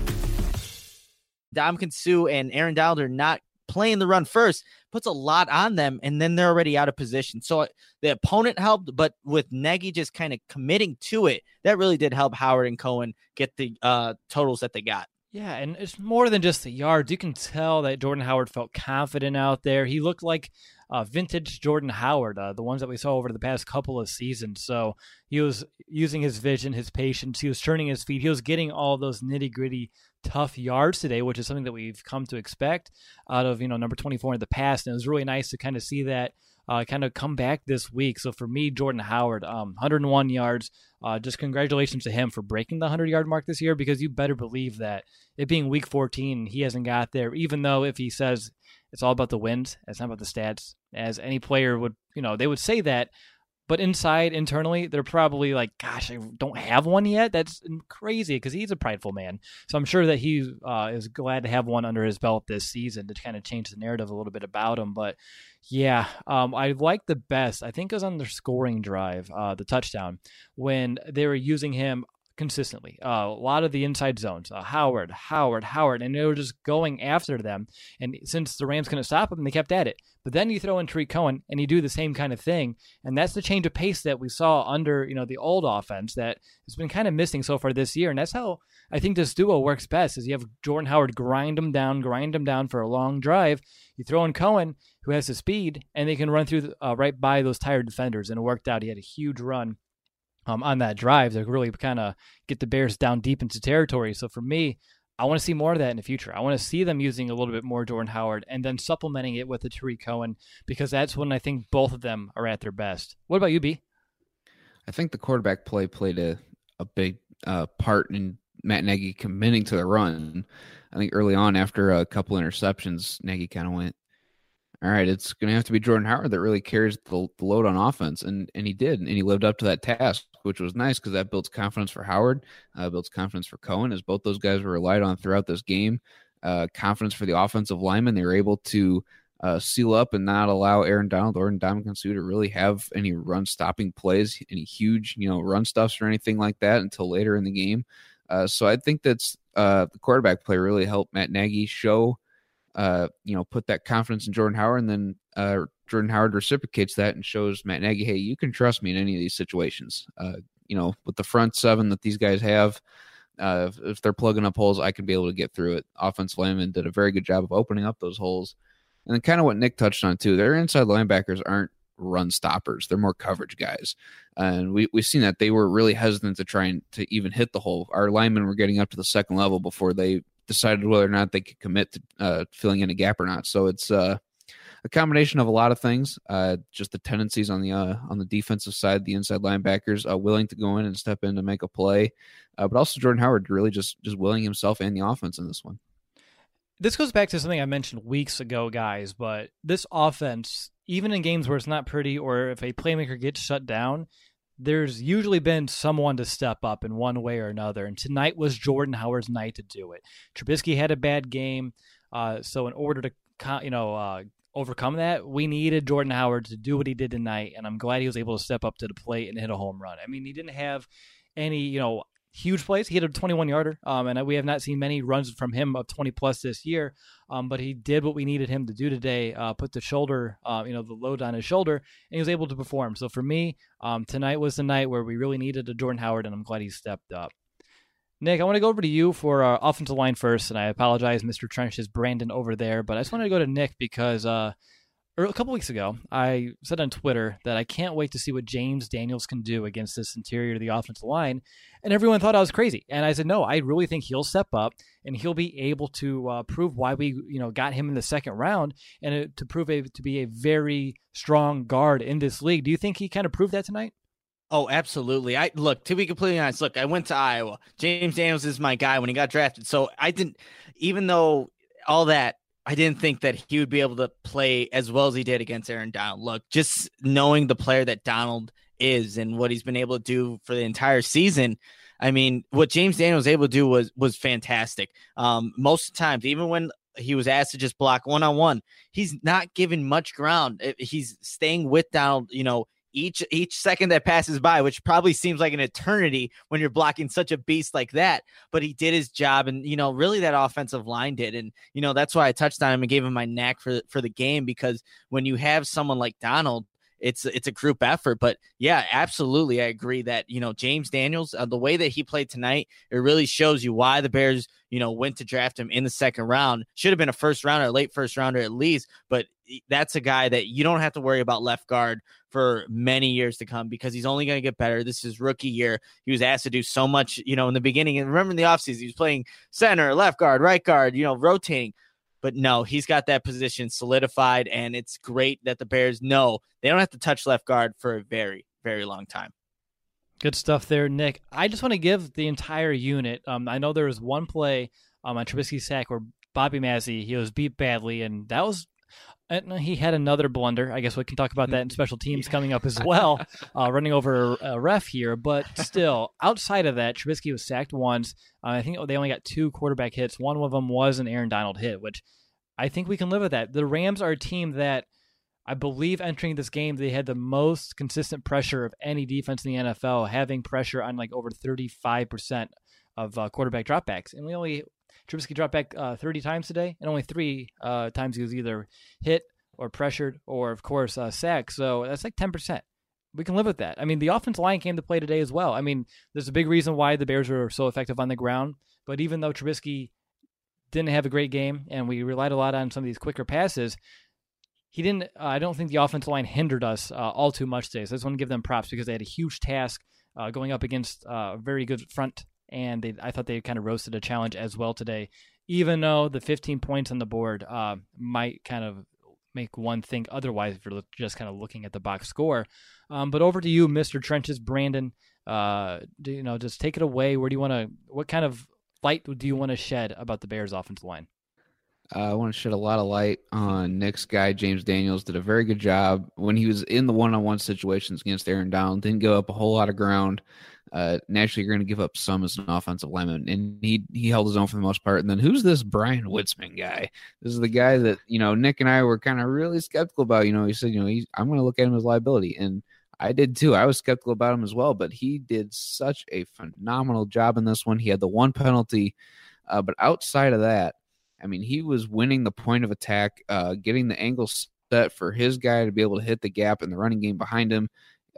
Ndamukong Suh and Aaron Donald are not playing the run first, puts a lot on them, and then they're already out of position. So the opponent helped, but with Nagy just kind of committing to it, that really did help Howard and Cohen get the totals that they got. Yeah, and it's more than just the yards. You can tell that Jordan Howard felt confident out there. He looked like vintage Jordan Howard, the ones that we saw over the past couple of seasons. So he was using his vision, his patience. He was turning his feet. He was getting all those nitty-gritty tough yards today, which is something that we've come to expect out of, number 24 in the past. And it was really nice to kind of see that kind of come back this week. So for me, Jordan Howard, 101 yards. Just congratulations to him for breaking the 100-yard mark this year, because you better believe that it being week 14, he hasn't got there, even though if he says it's all about the wins, it's not about the stats, as any player would, they would say that. But internally, they're probably like, gosh, I don't have one yet. That's crazy, because he's a prideful man. So I'm sure that he is glad to have one under his belt this season to kind of change the narrative a little bit about him. But yeah, I like the best. I think it was on their scoring drive, the touchdown, when they were using him consistently. A lot of the inside zones, Howard, and they were just going after them. And since the Rams couldn't stop them, they kept at it. But then you throw in Tarik Cohen and you do the same kind of thing. And that's the change of pace that we saw under, the old offense that has been kind of missing so far this year. And that's how I think this duo works best, is you have Jordan Howard grind them down for a long drive. You throw in Cohen, who has the speed, and they can run through right by those tired defenders. And it worked out. He had a huge run on that drive to really kind of get the Bears down deep into territory. So for me, I want to see more of that in the future. I want to see them using a little bit more Jordan Howard and then supplementing it with the Tarik Cohen, because that's when I think both of them are at their best. What about you, B? I think the quarterback play played a big part in Matt Nagy committing to the run. I think early on, after a couple interceptions, Nagy kind of went, all right, it's going to have to be Jordan Howard that really carries the load on offense. And he did, and he lived up to that task, which was nice, because that builds confidence for Howard, builds confidence for Cohen, as both those guys were relied on throughout this game. Confidence for the offensive linemen. They were able to seal up and not allow Aaron Donald or Ndamukong Suh to really have any run-stopping plays, any huge run stuffs or anything like that until later in the game. So I think that's the quarterback play really helped Matt Nagy show put that confidence in Jordan Howard, and then Jordan Howard reciprocates that and shows Matt Nagy, hey, you can trust me in any of these situations. With the front seven that these guys have, if they're plugging up holes, I can be able to get through it. Offensive linemen did a very good job of opening up those holes. And then kind of what Nick touched on too, their inside linebackers aren't run stoppers. They're more coverage guys. And we've seen that they were really hesitant to try to even hit the hole. Our linemen were getting up to the second level before they decided whether or not they could commit to filling in a gap or not. So it's a combination of a lot of things. Just the tendencies on the defensive side, the inside linebackers willing to go in and step in to make a play, but also Jordan Howard really just willing himself and the offense in this one. This goes back to something I mentioned weeks ago, guys, but this offense, even in games where it's not pretty or if a playmaker gets shut down, there's usually been someone to step up in one way or another, and tonight was Jordan Howard's night to do it. Trubisky had a bad game, so in order to overcome that, we needed Jordan Howard to do what he did tonight, and I'm glad he was able to step up to the plate and hit a home run. I mean, he didn't have any huge plays. He hit a 21-yarder, and we have not seen many runs from him of 20-plus this year, but he did what we needed him to do today, put the shoulder, the load on his shoulder, and he was able to perform. So for me, tonight was the night where we really needed a Jordan Howard, and I'm glad he stepped up. Nick, I want to go over to you for our offensive line first, and I apologize, Mr. Trench is Brandon over there, but I just wanted to go to Nick because a couple weeks ago, I said on Twitter that I can't wait to see what James Daniels can do against this interior of the offensive line, and everyone thought I was crazy. And I said, no, I really think he'll step up, and he'll be able to prove why we got him in the second round, and to prove to be a very strong guard in this league. Do you think he kind of proved that tonight? Oh, absolutely. To be completely honest, I went to Iowa. James Daniels is my guy when he got drafted. So I didn't, even though all that, I didn't think that he would be able to play as well as he did against Aaron Donald. Look, just knowing the player that Donald is and what he's been able to do for the entire season, I mean, what James Daniels was able to do was fantastic. Most of the times, even when he was asked to just block one-on-one, he's not giving much ground. He's staying with Donald, each second that passes by, which probably seems like an eternity when you're blocking such a beast like that. But he did his job, and really that offensive line did. And that's why I touched on him and gave him my knack for the game, because when you have someone like Donald, it's a group effort. But yeah, absolutely, I agree that James Daniels, the way that he played tonight, it really shows you why the Bears went to draft him in the second round. Should have been a first rounder, late first rounder at least, but that's a guy that you don't have to worry about left guard for many years to come, because he's only going to get better. This is his rookie year. He was asked to do so much, in the beginning. And remember in the offseason, he was playing center, left guard, right guard, rotating. But no, he's got that position solidified, and it's great that the Bears know they don't have to touch left guard for a very, very long time. Good stuff there, Nick. I just want to give the entire unit. I know there was one play on Trubisky's sack where Bobby Massey, he was beat badly, and that was he had another blunder. I guess we can talk about that in special teams coming up as well, running over a ref here. But still, outside of that, Trubisky was sacked once. I think they only got 2 quarterback hits. One of them was an Aaron Donald hit, which I think we can live with that. The Rams are a team that I believe entering this game, they had the most consistent pressure of any defense in the NFL, having pressure on over 35% of quarterback dropbacks. And Trubisky dropped back 30 times today, and only 3 times he was either hit or pressured or, of course, sacked. So that's like 10%. We can live with that. I mean, the offensive line came to play today as well. I mean, there's a big reason why the Bears were so effective on the ground. But even though Trubisky didn't have a great game, and we relied a lot on some of these quicker passes, he didn't. I don't think the offensive line hindered us all too much today. So I just want to give them props because they had a huge task going up against a very good front, and I thought they kind of roasted a challenge as well today, even though the 15 points on the board might kind of make one think otherwise if you're just kind of looking at the box score. But over to you, Mr. Trenches, Brandon. Just take it away. What kind of light do you want to shed about the Bears' offensive line? I want to shed a lot of light on Nick's guy, James Daniels. Did a very good job when he was in the one-on-one situations against Aaron Donald. Didn't give up a whole lot of ground. Naturally, you're going to give up some as an offensive lineman, and he held his own for the most part. And then who's this Brian Witzman guy? This is the guy that Nick and I were kind of really skeptical about. He said, I'm going to look at him as liability, and I did too. I was skeptical about him as well, but he did such a phenomenal job in this one. He had the one penalty, but outside of that, I mean, he was winning the point of attack, getting the angle set for his guy to be able to hit the gap in the running game behind him.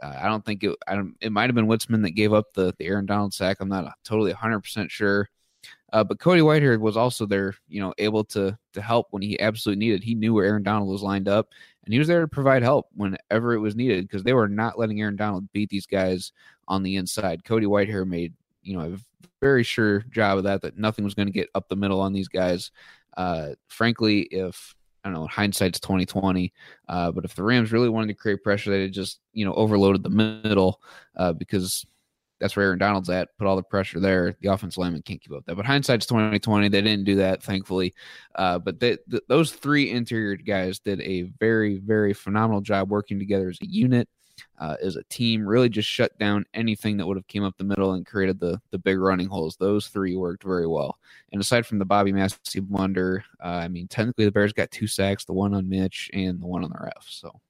It might have been Witzman that gave up the Aaron Donald sack. I'm not totally 100% sure. But Cody Whitehair was also there, able to help when he absolutely needed. He knew where Aaron Donald was lined up, and he was there to provide help whenever it was needed because they were not letting Aaron Donald beat these guys on the inside. Cody Whitehair made, a very sure job of that nothing was going to get up the middle on these guys. Frankly, if I don't know, hindsight's 2020. But if the Rams really wanted to create pressure, they'd just, overloaded the middle because that's where Aaron Donald's at. Put all the pressure there. The offensive lineman can't keep up that. But hindsight's 2020. They didn't do that, thankfully. But those 3 interior guys did a very, very phenomenal job working together as a unit, as a team. Really just shut down anything that would have came up the middle and created the big running holes. Those 3 worked very well. And aside from the Bobby Massey blunder, technically the Bears got 2 sacks, the one on Mitch and the one on the ref. So.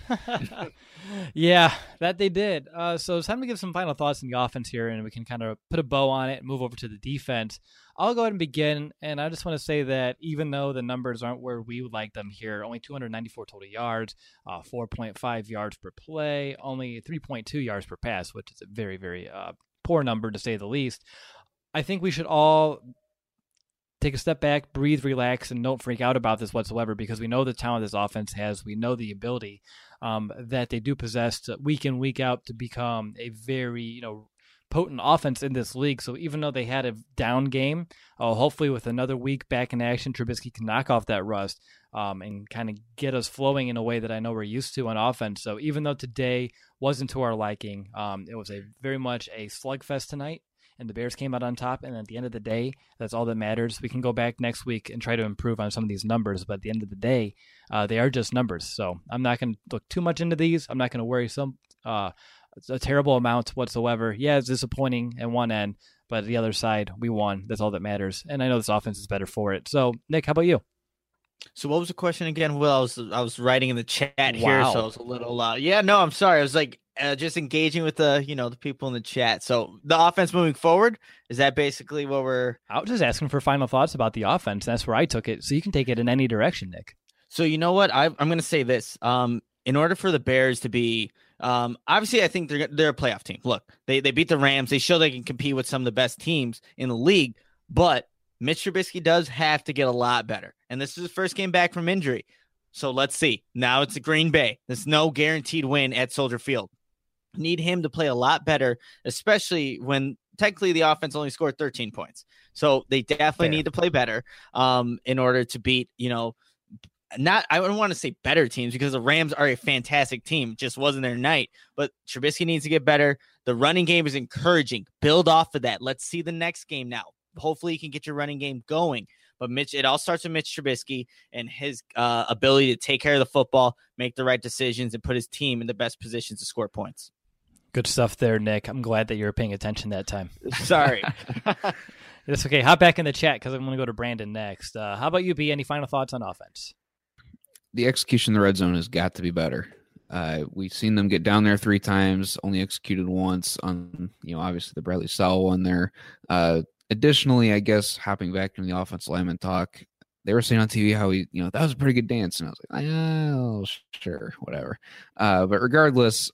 Yeah, that they did. So it's time to give some final thoughts on the offense here, and we can kind of put a bow on it and move over to the defense. I'll go ahead and begin, and I just want to say that even though the numbers aren't where we would like them here, only 294 total yards, 4.5 yards per play, only 3.2 yards per pass, which is a very, very poor number to say the least. I think we should all take a step back, breathe, relax, and don't freak out about this whatsoever, because we know the talent this offense has. We know the ability that they do possess to, week in, week out, to become a very, potent offense in this league. So even though they had a down game, hopefully with another week back in action, Trubisky can knock off that rust and kind of get us flowing in a way that I know we're used to on offense. So even though today wasn't to our liking, it was very much a slugfest tonight, and the Bears came out on top. And at the end of the day, that's all that matters. We can go back next week and try to improve on some of these numbers, but at the end of the day, they are just numbers. So I'm not going to look too much into these. I'm not going to worry a terrible amount whatsoever. Yeah, it's disappointing at one end, but at the other side, we won. That's all that matters. And I know this offense is better for it. So, Nick, how about you? So what was the question again? Well, I was writing in the chat here, so I was a little I'm sorry. I was like just engaging with the the people in the chat. So the offense moving forward, is that basically what I was just asking for final thoughts about the offense. That's where I took it. So you can take it in any direction, Nick. So you know what? I'm going to say this. In order for the Bears to be obviously, I think they're a playoff team. Look, they beat the Rams. They show they can compete with some of the best teams in the league, but Mitch Trubisky does have to get a lot better. And this is his first game back from injury. So let's see. Now it's a Green Bay. There's no guaranteed win at Soldier Field. Need him to play a lot better, especially when technically the offense only scored 13 points. So they definitely need to play better in order to beat, I don't want to say better teams, because the Rams are a fantastic team. It just wasn't their night. But Trubisky needs to get better. The running game is encouraging. Build off of that. Let's see the next game now. Hopefully you can get your running game going. But it all starts with Mitch Trubisky and his ability to take care of the football, make the right decisions, and put his team in the best positions to score points. Good stuff there, Nick. I'm glad that you were paying attention that time. Sorry. It's okay. Hop back in the chat because I'm going to go to Brandon next. How about you, B? Any final thoughts on offense? The execution in the red zone has got to be better. We've seen them get down there 3 times, only executed once on, obviously the Bradley Sowell one there. Additionally, I guess hopping back into the offensive lineman talk, they were saying on TV how that was a pretty good dance. And I was like, oh, sure, whatever. But regardless,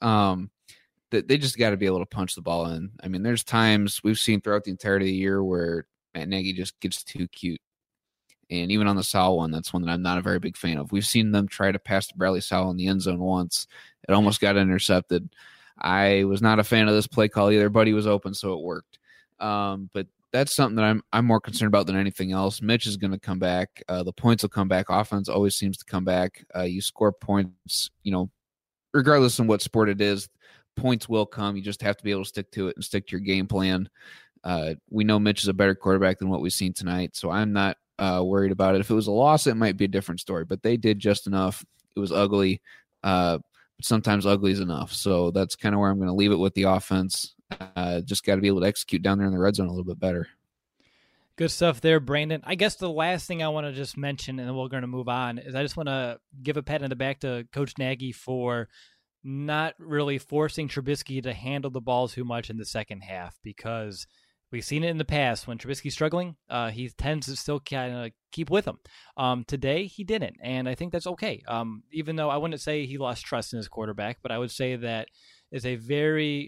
they just got to be able to punch the ball in. I mean, there's times we've seen throughout the entirety of the year where Matt Nagy just gets too cute. And even on the Sowell one, that's one that I'm not a very big fan of. We've seen them try to pass to Bradley Sowell in the end zone once. It almost got intercepted. I was not a fan of this play call either, but he was open, so it worked. But that's something that I'm more concerned about than anything else. Mitch is going to come back. The points will come back. Offense always seems to come back. You score points, regardless of what sport it is, points will come. You just have to be able to stick to it and stick to your game plan. We know Mitch is a better quarterback than what we've seen tonight, so I'm not worried about it. If it was a loss, it might be a different story, but they did just enough. It was ugly, but sometimes ugly is enough. So that's kind of where I'm going to leave it with the offense. Just got to be able to execute down there in the red zone a little bit better. Good stuff there, Brandon. I guess the last thing I want to just mention, and then we're going to move on, is I just want to give a pat on the back to Coach Nagy for not really forcing Trubisky to handle the ball too much in the second half, because we've seen it in the past. When Trubisky's struggling, he tends to still kind of keep with him. Today, he didn't, and I think that's okay. Even though I wouldn't say he lost trust in his quarterback, but I would say that is a very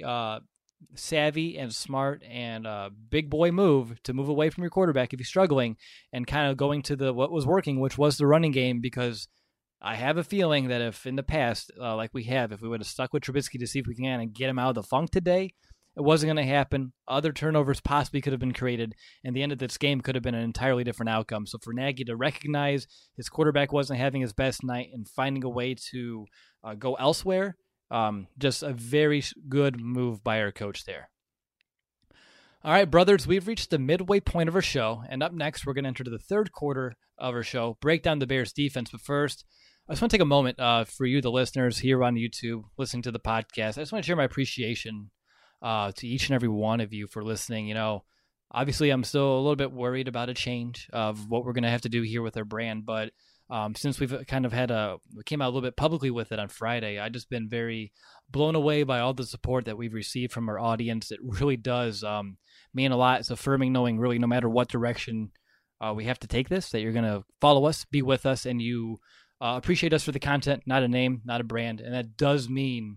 savvy and smart and big boy move to move away from your quarterback if he's struggling and kind of going to what was working, which was the running game, because I have a feeling that if in the past, if we would have stuck with Trubisky to see if we can kind of get him out of the funk today, it wasn't going to happen. Other turnovers possibly could have been created, and the end of this game could have been an entirely different outcome. So for Nagy to recognize his quarterback wasn't having his best night and finding a way to go elsewhere, just a very good move by our coach there. All right, brothers, we've reached the midway point of our show, and up next, we're going to enter the third quarter of our show, break down the Bears defense. But first, I just want to take a moment for you, the listeners here on YouTube, listening to the podcast. I just want to share my appreciation to each and every one of you for listening. Obviously, I'm still a little bit worried about a change of what we're going to have to do here with our brand, but since we've kind of we came out a little bit publicly with it on Friday, I've just been very blown away by all the support that we've received from our audience. It really does mean a lot. It's affirming knowing really no matter what direction we have to take this, that you're going to follow us, be with us, and you appreciate us for the content, not a name, not a brand. And that does mean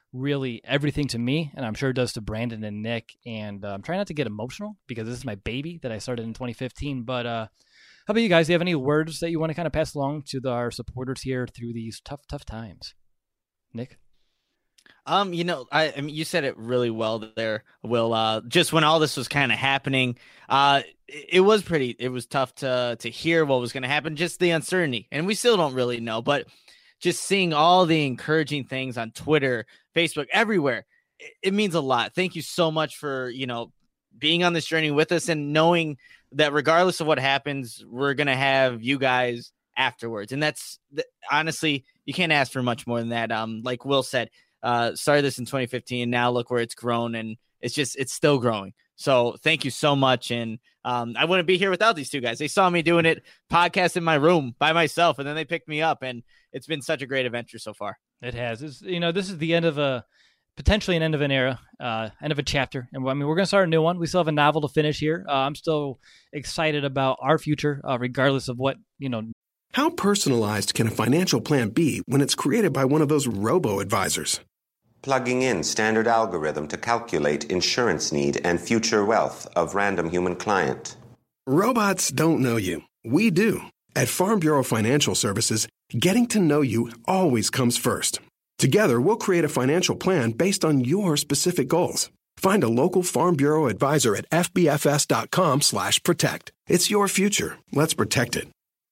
really everything to me, and I'm sure it does to Brandon and Nick. And I'm trying not to get emotional because this is my baby that I started in 2015. But how about you guys? Do you have any words that you want to kind of pass along to our supporters here through these tough times? Nick? I mean, you said it really well there, Will. Just when all this was kind of happening, it was tough to hear what was going to happen, just the uncertainty, and we still don't really know. But just seeing all the encouraging things on Twitter, Facebook, everywhere, it means a lot. Thank you so much for being on this journey with us and knowing that regardless of what happens, we're going to have you guys afterwards, and that's honestly, you can't ask for much more than that. Like Will said. Started this in 2015. Now look where it's grown, and it's still growing. So thank you so much. And I wouldn't be here without these two guys. They saw me doing it, podcast in my room by myself, and then they picked me up, and it's been such a great adventure so far. It has. This is the end of potentially an end of an era, end of a chapter. And I mean, we're going to start a new one. We still have a novel to finish here. I'm still excited about our future, regardless of what, How personalized can a financial plan be when it's created by one of those robo-advisors? Plugging in standard algorithm to calculate insurance need and future wealth of random human client. Robots don't know you. We do. At Farm Bureau Financial Services, getting to know you always comes first. Together, we'll create a financial plan based on your specific goals. Find a local Farm Bureau advisor at fbfs.com/protect. It's your future. Let's protect it.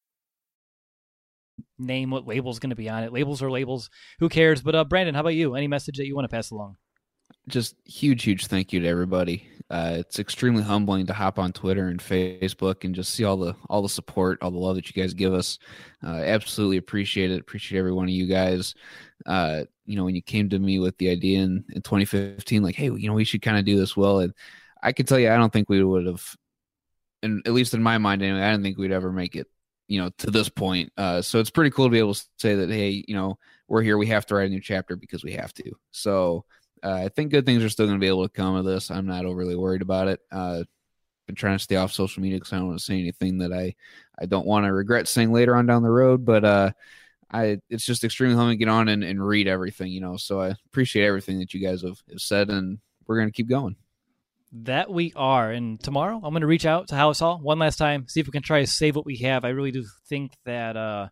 Name what label's going to be on it. Labels are labels. Who cares? But Brandon, how about you? Any message that you want to pass along? Just huge thank you to everybody. It's extremely humbling to hop on Twitter and Facebook and just see all the support, all the love that you guys give us. Absolutely appreciate it. Appreciate every one of you guys. When you came to me with the idea in 2015, like, hey, we should kind of do this well. And I can tell you, I don't think we would have, and at least in my mind anyway, I didn't think we'd ever make it, to this point. So it's pretty cool to be able to say that, hey, we're here. We have to write a new chapter because we have to. So I think good things are still going to be able to come of this. I'm not overly worried about it. Been trying to stay off social media because I don't want to say anything that I don't want to regret saying later on down the road. But it's just extremely humbling to get on and read everything, So I appreciate everything that you guys have said, and we're going to keep going. That we are. And tomorrow I'm going to reach out to House Hall one last time, see if we can try to save what we have. I really do think that,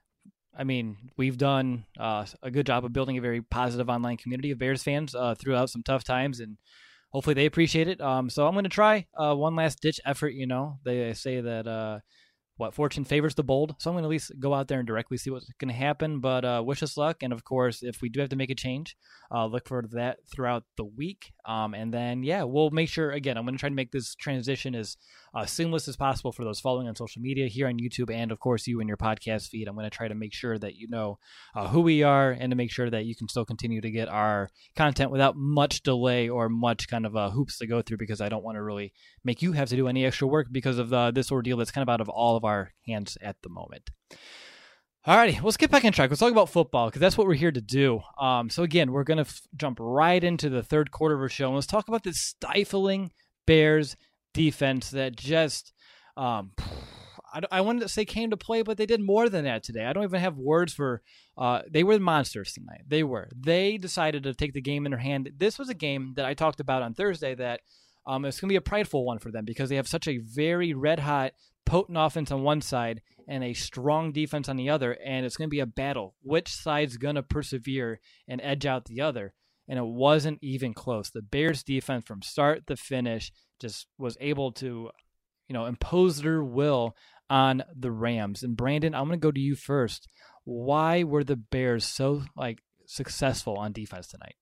we've done a good job of building a very positive online community of Bears fans throughout some tough times, and hopefully they appreciate it. So I'm going to try one last ditch effort. They say that fortune favors the bold. So I'm going to at least go out there and directly see what's going to happen. But wish us luck. And of course, if we do have to make a change, look for that throughout the week. And then, we'll make sure, again, I'm going to try to make this transition as seamless as possible for those following on social media here on YouTube. And of course, you in your podcast feed. I'm going to try to make sure that you know who we are and to make sure that you can still continue to get our content without much delay or much kind of hoops to go through, because I don't want to really make you have to do any extra work because of this ordeal that's kind of out of all of our hands at the moment. Alrighty, let's get back on track. Let's talk about football because that's what we're here to do. So again, we're going to jump right into the third quarter of our show, and let's talk about this stifling Bears defense that just, I wanted to say came to play, but they did more than that today. I don't even have words for, they were monsters tonight. They decided to take the game in their hand. This was a game that I talked about on Thursday that it's going to be a prideful one for them because they have such a very red-hot, potent offense on one side and a strong defense on the other, and it's going to be a battle. Which side's going to persevere and edge out the other? And it wasn't even close. The Bears defense from start to finish just was able to, impose their will on the Rams. And Brandon, I'm going to go to you first. Why were the Bears so successful on defense tonight?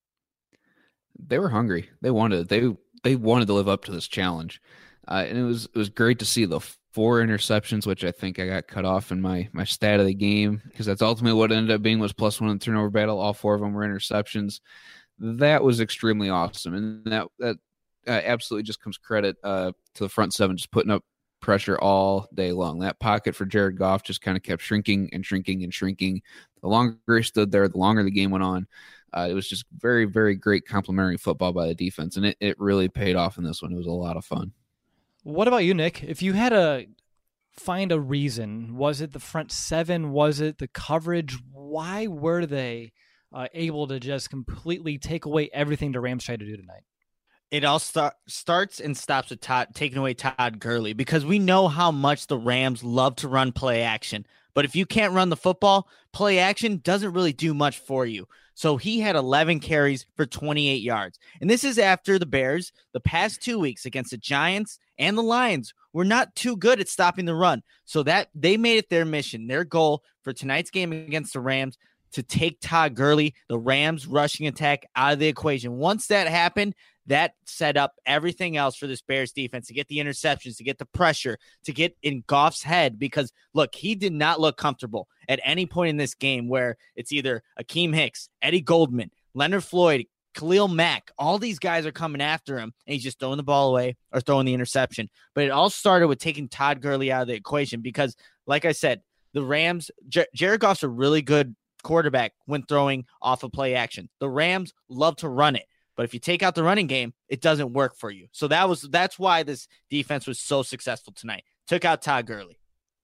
They were hungry. They wanted to live up to this challenge. And it was great to see the 4 interceptions, which I think I got cut off in my stat of the game, because that's ultimately what it ended up being was +1 in the turnover battle. All 4 of them were interceptions. That was extremely awesome. And that absolutely just comes credit to the front 7, just putting up pressure all day long. That pocket for Jared Goff just kind of kept shrinking and shrinking and shrinking. The longer he stood there, the longer the game went on. It was just very, very great complimentary football by the defense, and it really paid off in this one. It was a lot of fun. What about you, Nick? If you had to find a reason, was it the front 7? Was it the coverage? Why were they able to just completely take away everything the Rams tried to do tonight. It all starts and stops with taking away Todd Gurley, because we know how much the Rams love to run play action. But if you can't run the football, play action doesn't really do much for you. So he had 11 carries for 28 yards. And this is after the Bears, the past 2 weeks against the Giants and the Lions, were not too good at stopping the run. So that they made it their mission, their goal for tonight's game against the Rams, to take Todd Gurley, the Rams rushing attack, out of the equation. Once that happened, that set up everything else for this Bears defense to get the interceptions, to get the pressure, to get in Goff's head. Because, look, he did not look comfortable at any point in this game, where it's either Akeem Hicks, Eddie Goldman, Leonard Floyd, Khalil Mack. All these guys are coming after him, and he's just throwing the ball away or throwing the interception. But it all started with taking Todd Gurley out of the equation because, like I said, the Rams, Jared Goff's a really good quarterback when throwing off of play action. The Rams love to run it. But if you take out the running game, it doesn't work for you. So that's why this defense was so successful tonight. Took out Todd Gurley.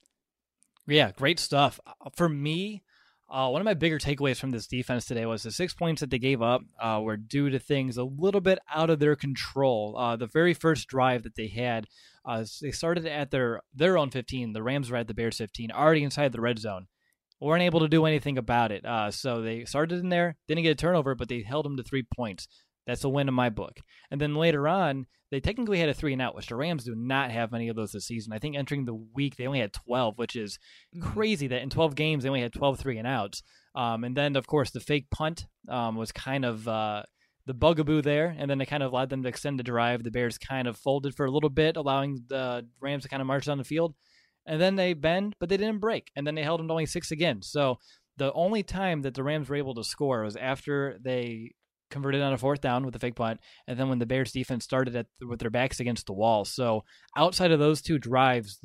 Yeah, great stuff. For me, one of my bigger takeaways from this defense today was the 6 points that they gave up were due to things a little bit out of their control. The very first drive that they had, they started at their own 15. The Rams were at the Bears 15, already inside the red zone. Weren't able to do anything about it. So they started in there, didn't get a turnover, but they held them to 3 points. That's a win in my book. And then later on, they technically had a 3-and-out, which the Rams do not have many of those this season. I think entering the week, they only had 12, which is crazy that in 12 games, they only had 12 3-and-outs. And then, of course, the fake punt was kind of the bugaboo there, and then it kind of allowed them to extend the drive. The Bears kind of folded for a little bit, allowing the Rams to kind of march down the field. And then they bend, but they didn't break. And then they held them to only 6 again. So the only time that the Rams were able to score was after they converted on a 4th down with the fake punt, and then when the Bears defense started with their backs against the wall. So outside of those 2 drives,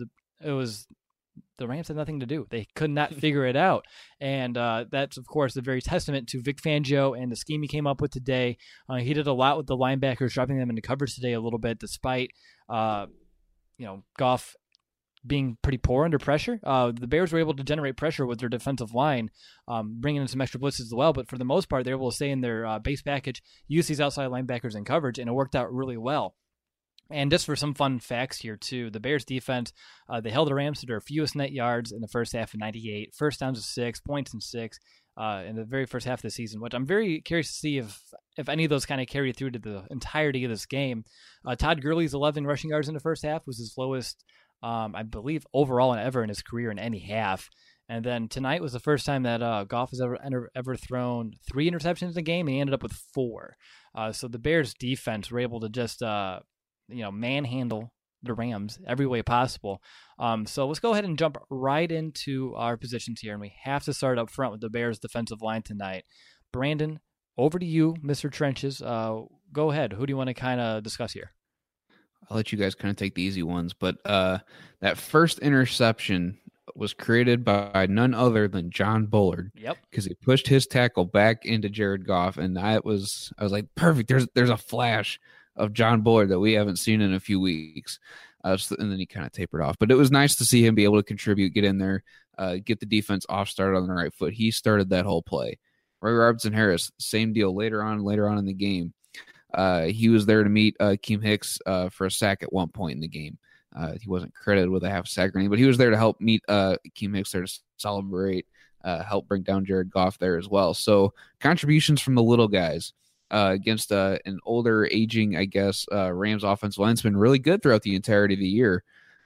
the Rams had nothing to do. They could not figure it out. And that's, of course, a very testament to Vic Fangio and the scheme he came up with today. He did a lot with the linebackers, dropping them into coverage today a little bit, despite Goff being pretty poor under pressure. The Bears were able to generate pressure with their defensive line, bringing in some extra blitzes as well. But for the most part, they were able to stay in their base package, use these outside linebackers in coverage, and it worked out really well. And just for some fun facts here, too, the Bears defense, they held the Rams to their fewest net yards in the first half of 98, first downs of 6, points in 6 in the very first half of the season, which I'm very curious to see if any of those kind of carry through to the entirety of this game. Todd Gurley's 11 rushing yards in the first half was his lowest, I believe, overall and ever in his career in any half. And then tonight was the first time that Goff has ever thrown 3 interceptions in a game, and he ended up with 4. So the Bears defense were able to just manhandle the Rams every way possible. So let's go ahead and jump right into our positions here, and we have to start up front with the Bears defensive line tonight. Brandon, over to you, Mr. Trenches. Go ahead. Who do you want to kind of discuss here? I'll let you guys kind of take the easy ones, but that first interception was created by none other than John Bullard. Yep. Because he pushed his tackle back into Jared Goff, and I was like, perfect. There's a flash of John Bullard that we haven't seen in a few weeks. And then he kind of tapered off. But it was nice to see him be able to contribute, get in there, get the defense off started on the right foot. He started that whole play. Roy Robertson-Harris, same deal later on in the game. He was there to meet Akeem Hicks for a sack at one point in the game. He wasn't credited with a half sack or anything, but he was there to help meet Akeem Hicks there to celebrate, help bring down Jared Goff there as well. So contributions from the little guys against an older, aging, I guess, Rams offensive line's been really good throughout the entirety of the year.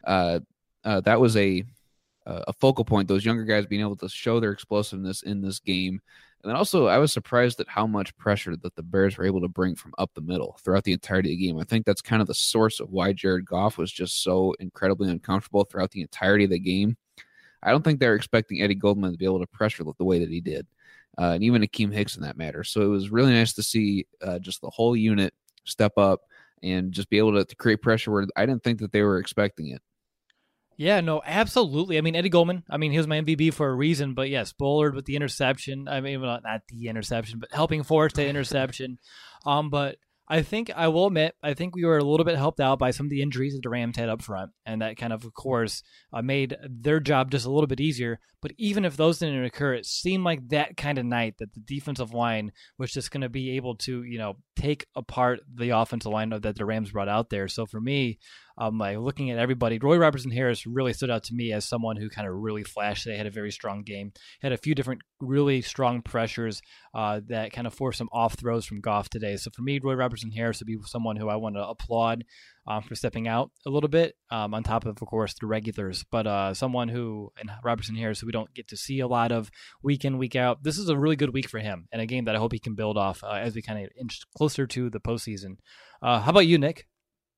That was a focal point, those younger guys being able to show their explosiveness in this game. And then also, I was surprised at how much pressure that the Bears were able to bring from up the middle throughout the entirety of the game. I think that's kind of the source of why Jared Goff was just so incredibly uncomfortable throughout the entirety of the game. I don't think they were expecting Eddie Goldman to be able to pressure the way that he did, and even Akeem Hicks in that matter. So it was really nice to see just the whole unit step up and just be able to create pressure where I didn't think that they were expecting it. Yeah, no, absolutely. I mean, Eddie Goldman, he was my MVP for a reason, but yes, Bullard with the interception. I mean, well, not the interception, but helping force the interception. But I think I will admit, I think we were a little bit helped out by some of the injuries that the Rams had up front, and that kind of course, made their job just a little bit easier. But even if those didn't occur, it seemed like that kind of night that the defensive line was just going to be able to, take apart the offensive line that the Rams brought out there. So for me, like looking at everybody, Roy Robertson-Harris really stood out to me as someone who kind of really flashed. They had a very strong game, had a few different really strong pressures that kind of forced some off throws from Goff today. So for me, Roy Robertson-Harris would be someone who I want to applaud for stepping out a little bit on top of course, the regulars. But someone who, and Robertson-Harris, who we don't get to see a lot of week in, week out, this is a really good week for him and a game that I hope he can build off as we kind of inch closer to the postseason. How about you, Nick?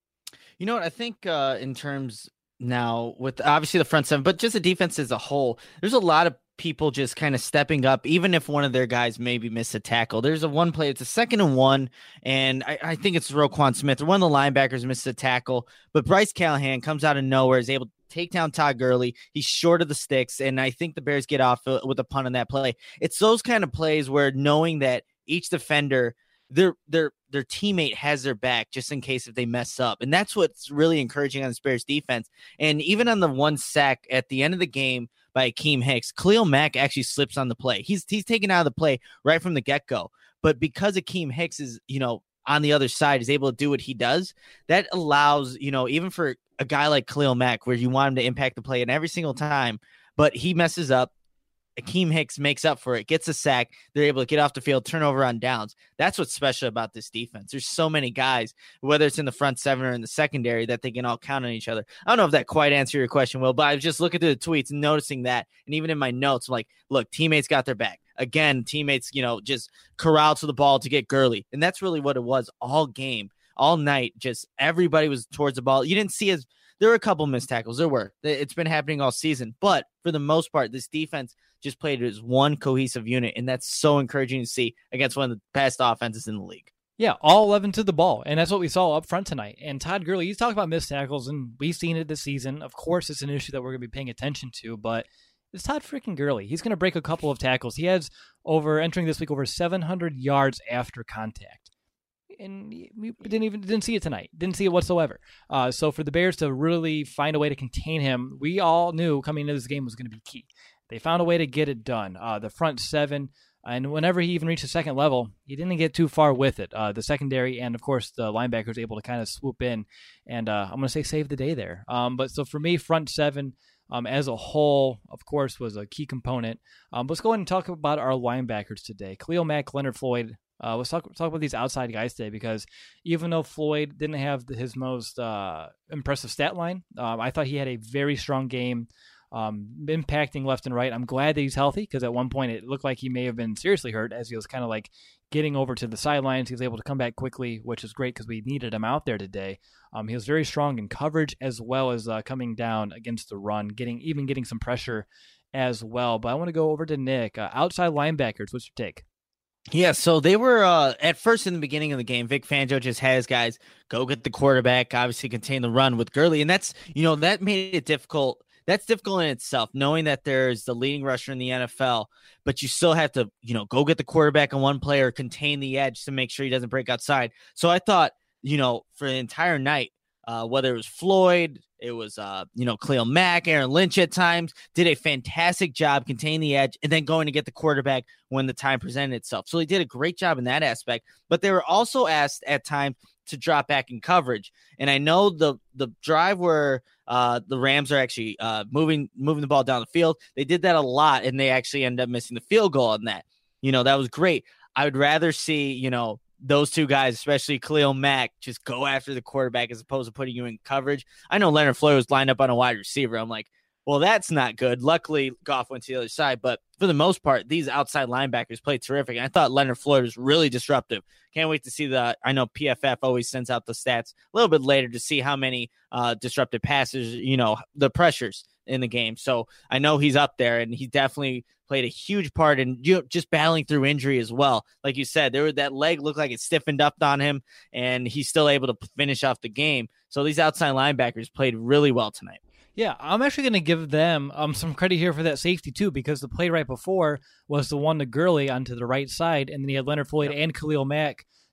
You know what? I think in terms now with obviously the front seven, but just the defense as a whole, there's a lot of people just kind of stepping up, even if one of their guys maybe missed a tackle. There's a one play, it's a 2nd and 1, and I think it's Roquan Smith or one of the linebackers missed a tackle, but Bryce Callahan comes out of nowhere, is able to take down Todd Gurley. He's short of the sticks, and I think the Bears get off with a punt on that play. It's those kind of plays where knowing that each defender, their teammate has their back just in case if they mess up. And that's what's really encouraging on the Bears defense. And even on the one sack at the end of the game by Akeem Hicks, Khalil Mack actually slips on the play. He's taken out of the play right from the get-go. But because Akeem Hicks is, on the other side, is able to do what he does, that allows, even for a guy like Khalil Mack, where you want him to impact the play and every single time, but he messes up, Akeem Hicks makes up for it, gets a sack. They're able to get off the field, turnover on downs. That's what's special about this defense. There's so many guys, whether it's in the front seven or in the secondary, that they can all count on each other. I don't know if that quite answered your question, Will, but I was just looking through the tweets and noticing that. And even in my notes, I'm like, look, teammates got their back. Again, teammates, just corralled to the ball to get Gurley. And that's really what it was all game, all night. Just everybody was towards the ball. You didn't see there were a couple missed tackles. There were. It's been happening all season. But for the most part, this defense just played as one cohesive unit, and that's so encouraging to see against one of the best offenses in the league. Yeah, all 11 to the ball, and that's what we saw up front tonight. And Todd Gurley, he's talking about missed tackles, and we've seen it this season. Of course, it's an issue that we're going to be paying attention to, but it's Todd freaking Gurley. He's going to break a couple of tackles. He has entering this week over 700 yards after contact. And we didn't see it tonight. Didn't see it whatsoever. So for the Bears to really find a way to contain him, we all knew coming into this game was going to be key. They found a way to get it done. The front seven, and whenever he even reached the second level, he didn't get too far with it. The secondary and, of course, the linebackers able to kind of swoop in and I'm going to say save the day there. But so for me, front seven as a whole, of course, was a key component. Let's go ahead and talk about our linebackers today. Khalil Mack, Leonard Floyd. Let's talk about these outside guys today, because even though Floyd didn't have his most impressive stat line, I thought he had a very strong game, impacting left and right. I'm glad that he's healthy, because at one point it looked like he may have been seriously hurt as he was kind of like getting over to the sidelines. He was able to come back quickly, which is great because we needed him out there today. He was very strong in coverage as well as coming down against the run, getting some pressure as well. But I want to go over to Nick. Outside linebackers, what's your take? Yeah, so they were at first in the beginning of the game, Vic Fangio just had his guys go get the quarterback, obviously contain the run with Gurley. And that's, that made it difficult. That's difficult in itself, knowing that there's the leading rusher in the NFL, but you still have to, go get the quarterback on one player, contain the edge to make sure he doesn't break outside. So I thought, for the entire night, whether it was Floyd, it was, Khalil Mack, Aaron Lynch at times, did a fantastic job containing the edge and then going to get the quarterback when the time presented itself. So he did a great job in that aspect, but they were also asked at times to drop back in coverage. And I know the drive where the Rams are actually moving the ball down the field, they did that a lot, and they actually ended up missing the field goal on that. That was great. I would rather see, those two guys, especially Khalil Mack, just go after the quarterback as opposed to putting you in coverage. I know Leonard Floyd was lined up on a wide receiver. I'm like, well, that's not good. Luckily, Goff went to the other side. But for the most part, these outside linebackers played terrific. And I thought Leonard Floyd was really disruptive. Can't wait to see I know PFF always sends out the stats a little bit later to see how many disrupted passes, the pressures in the game. So I know he's up there, and he definitely played a huge part in just battling through injury as well. Like you said, that leg looked like it stiffened up on him, and he's still able to finish off the game. So these outside linebackers played really well tonight. Yeah, I'm actually going to give them some credit here for that safety too, because the play right before was the one to Gurley onto the right side, and then he had Leonard Floyd and Khalil Mack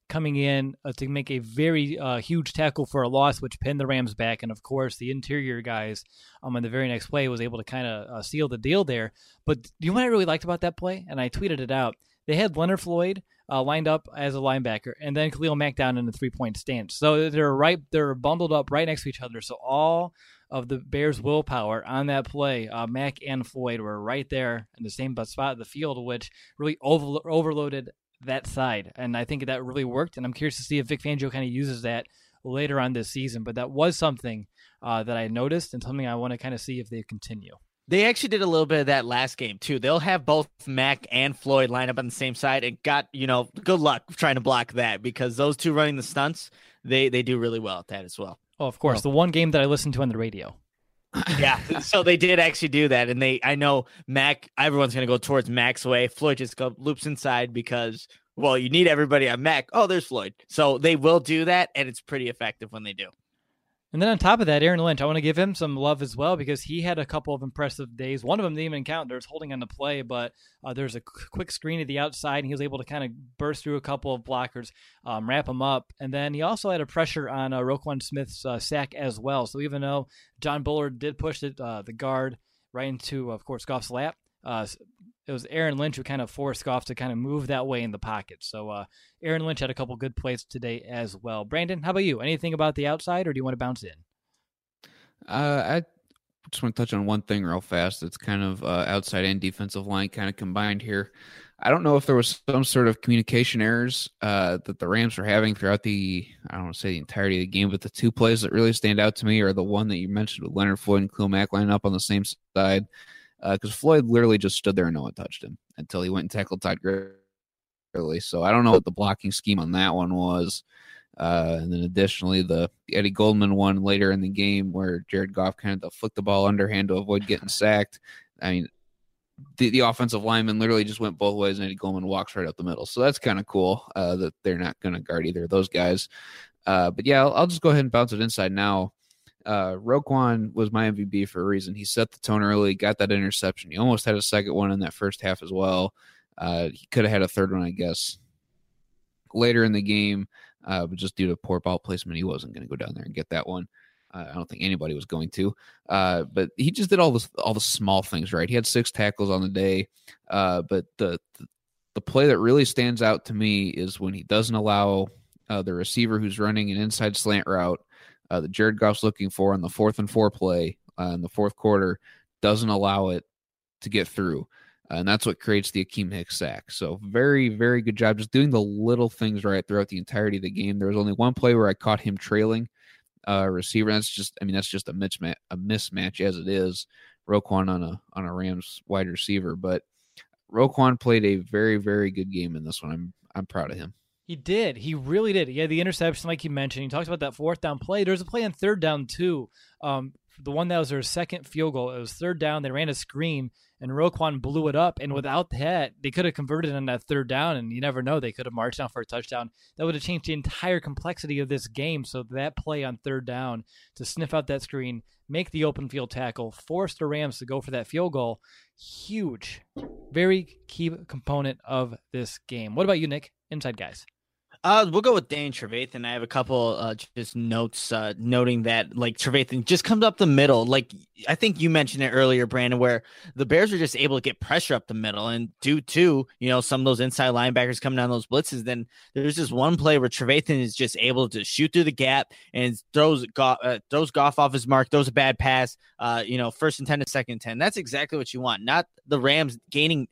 coming in to make a very huge tackle for a loss, which pinned the Rams back. And, of course, the interior guys on the very next play was able to kind of seal the deal there. But you know what I really liked about that play? And I tweeted it out. They had Leonard Floyd lined up as a linebacker, and then Khalil Mack down in the 3-point stance. So they're bundled up right next to each other. So all of the Bears' willpower on that play, Mack and Floyd were right there in the same spot of the field, which really overloaded that side. And I think that really worked. And I'm curious to see if Vic Fangio kind of uses that later on this season. But that was something that I noticed and something I want to kind of see if they continue. They actually did a little bit of that last game, too. They'll have both Mack and Floyd line up on the same side, and good luck trying to block that, because those two running the stunts, they do really well at that as well. Oh, of course. The one game that I listened to on the radio. Yeah, so they did actually do that, and I know Mack, everyone's going to go towards Mack's way. Floyd just loops inside because, well, you need everybody on Mack. Oh, there's Floyd. So they will do that, and it's pretty effective when they do. And then on top of that, Aaron Lynch, I want to give him some love as well, because he had a couple of impressive days. One of them didn't even count. There's holding on the play, but there's a quick screen to the outside, and he was able to kind of burst through a couple of blockers, wrap him up. And then he also had a pressure on Roquan Smith's sack as well. So even though John Bullard did push the guard right into, of course, Goff's lap, it was Aaron Lynch who kind of forced Goff to kind of move that way in the pocket. So Aaron Lynch had a couple good plays today as well. Brandon, how about you? Anything about the outside, or do you want to bounce in? I just want to touch on one thing real fast. It's kind of outside and defensive line kind of combined here. I don't know if there was some sort of communication errors that the Rams were having throughout I don't want to say the entirety of the game, but the two plays that really stand out to me are the one that you mentioned with Leonard Floyd and Khalil Mack lining up on the same side. Because Floyd literally just stood there and no one touched him until he went and tackled Todd Gurley. So I don't know what the blocking scheme on that one was. And then additionally, the Eddie Goldman one later in the game where Jared Goff kind of flicked the ball underhand to avoid getting sacked. I mean, the offensive lineman literally just went both ways, and Eddie Goldman walks right up the middle. So that's kind of cool that they're not going to guard either of those guys. But yeah, I'll just go ahead and bounce it inside now. Roquan was my MVP for a reason. He set the tone early, got that interception. He almost had a second one in that first half as well. He could have had a third one, I guess, later in the game, but just due to poor ball placement, he wasn't going to go down there and get that one. I don't think anybody was going to. But he just did all the small things right. He had 6 tackles on the day. But the play that really stands out to me is when he doesn't allow the receiver who's running an inside slant route that Jared Goff's looking for on the 4th and 4 play in the fourth quarter, doesn't allow it to get through. And that's what creates the Akeem Hicks sack. So very, very good job just doing the little things right throughout the entirety of the game. There was only one play where I caught him trailing receiver. That's just a mismatch as it is. Roquan on a Rams wide receiver, but Roquan played a very, very good game in this one. I'm proud of him. He did. He really did. He had the interception, like you mentioned. He talks about that 4th down play. There was a play on 3rd down, too. The one that was their second field goal. It was 3rd down. They ran a screen, and Roquan blew it up. And without that, they could have converted on that 3rd down, and you never know. They could have marched down for a touchdown. That would have changed the entire complexity of this game. So that play on 3rd down to sniff out that screen, make the open field tackle, force the Rams to go for that field goal, huge. Very key component of this game. What about you, Nick? Inside guys. We'll go with Danny Trevathan. I have a couple just notes noting that, like, Trevathan just comes up the middle. Like, I think you mentioned it earlier, Brandon, where the Bears are just able to get pressure up the middle. And due to, some of those inside linebackers coming down those blitzes, then there's just one play where Trevathan is just able to shoot through the gap and throws Goff off his mark, throws a bad pass, 1st and 10 to 2nd and 10. That's exactly what you want. Not the Rams gaining,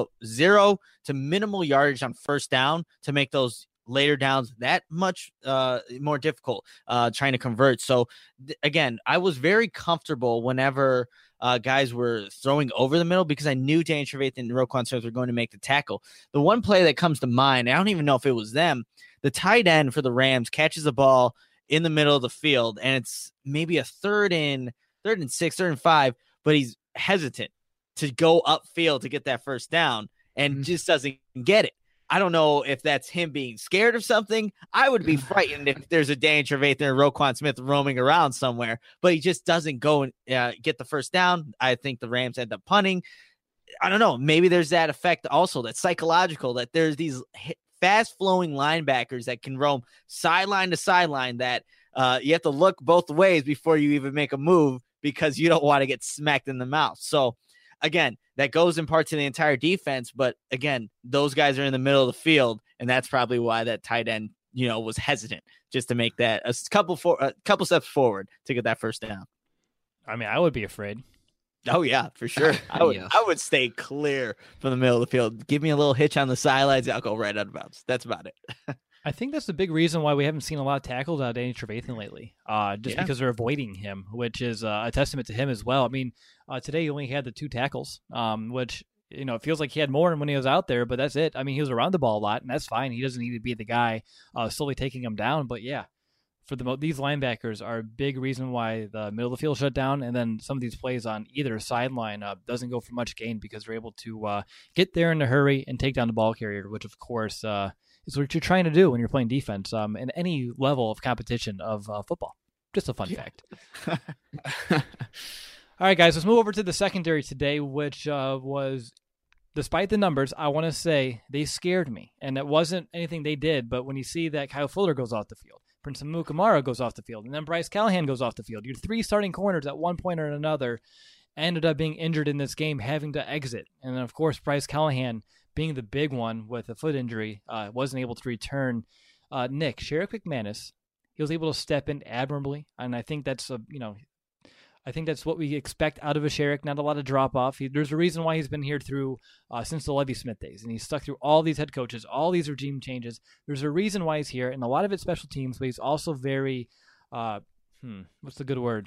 0 to minimal yardage on 1st down to make those later downs that much more difficult trying to convert. So again, I was very comfortable whenever guys were throwing over the middle because I knew Danny Trevathan and Roquan Smith were going to make the tackle. The one play that comes to mind, I don't even know if it was them, the tight end for the Rams catches the ball in the middle of the field, and it's maybe a 3rd and 6, 3rd and 5, but he's hesitant to go upfield to get that 1st down and just doesn't get it. I don't know if that's him being scared of something. I would be frightened if there's a Danny Trevathan or Roquan Smith roaming around somewhere, but he just doesn't go and get the 1st down. I think the Rams end up punting. I don't know. Maybe there's that effect also, that's psychological, that there's these fast flowing linebackers that can roam sideline to sideline that you have to look both ways before you even make a move because you don't want to get smacked in the mouth. So again, that goes in part to the entire defense. But again, those guys are in the middle of the field, and that's probably why that tight end, was hesitant just to make that a couple steps forward to get that first down. I mean, I would be afraid. Oh yeah, for sure. I would stay clear from the middle of the field. Give me a little hitch on the sidelines. I'll go right out of bounds. That's about it. I think that's the big reason why we haven't seen a lot of tackles out of Danny Trevathan lately, because they're avoiding him, which is a testament to him as well. I mean, today he only had the 2 tackles, which, it feels like he had more when he was out there, but that's it. I mean, he was around the ball a lot, and that's fine. He doesn't need to be the guy slowly taking him down. But yeah, for these linebackers are a big reason why the middle of the field shut down, and then some of these plays on either sideline doesn't go for much gain because they're able to get there in a hurry and take down the ball carrier, which of course is what you're trying to do when you're playing defense in any level of competition of football. Just a fun fact. All right, guys, let's move over to the secondary today, which was, despite the numbers, I want to say they scared me. And it wasn't anything they did, but when you see that Kyle Fuller goes off the field, Prince Amukamara goes off the field, and then Bryce Callahan goes off the field, your 3 starting corners at one point or another ended up being injured in this game, having to exit. And then, of course, Bryce Callahan, being the big one with a foot injury, wasn't able to return. Sherrick McManus, he was able to step in admirably, and I think that's what we expect out of a Sherrick. Not a lot of drop off. There's a reason why he's been here through since the Lovie Smith days, and he's stuck through all these head coaches, all these regime changes. There's a reason why he's here, and a lot of it's special teams, but he's also very what's the good word?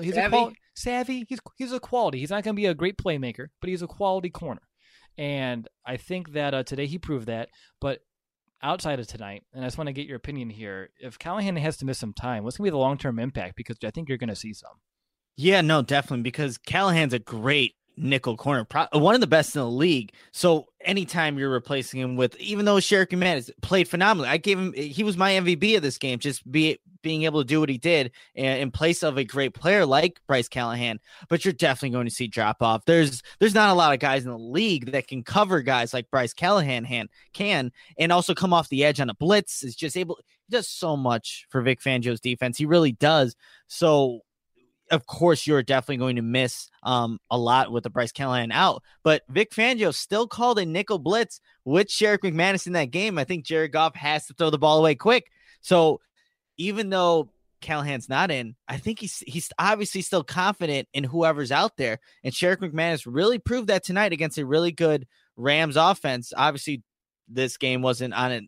Savvy. He's a quality. He's not going to be a great playmaker, but he's a quality corner. And I think that today he proved that. But outside of tonight, and I just want to get your opinion here, if Callahan has to miss some time, what's going to be the long-term impact? Because I think you're going to see some. Yeah, no, definitely, because Callahan's a great nickel corner, one of the best in the league. So anytime you're replacing him with, even though Sherrick McManus played phenomenally, he was my MVP of this game, just being able to do what he did in place of a great player like Bryce Callahan. But you're definitely going to see drop off. There's not a lot of guys in the league that can cover guys like Bryce Callahan can, and also come off the edge on a blitz. He does so much for Vic Fangio's defense. He really does. So of course, you're definitely going to miss a lot with the Bryce Callahan out. But Vic Fangio still called a nickel blitz with Sherrick McManus in that game. I think Jared Goff has to throw the ball away quick. So even though Callahan's not in, I think he's obviously still confident in whoever's out there. And Sherrick McManus really proved that tonight against a really good Rams offense. Obviously, this game wasn't on it,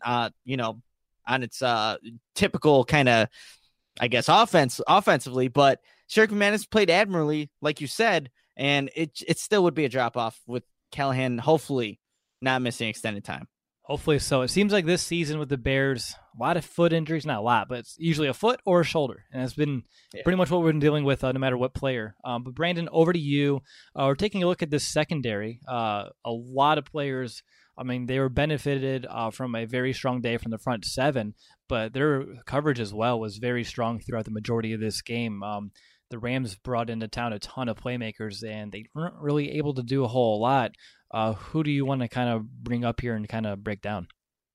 on its typical kind of, I guess, offensively, but Sherrick McManus played admirably, like you said, and it still would be a drop-off with Callahan hopefully not missing extended time. Hopefully so. It seems like this season with the Bears, a lot of foot injuries, not a lot, but it's usually a foot or a shoulder, and that's been pretty much what we've been dealing with no matter what player. But Brandon, over to you. We're taking a look at this secondary. A lot of players, I mean, they were benefited from a very strong day from the front 7, but their coverage as well was very strong throughout the majority of this game. The Rams brought into town a ton of playmakers, and they weren't really able to do a whole lot. Who do you want to kind of bring up here and kind of break down?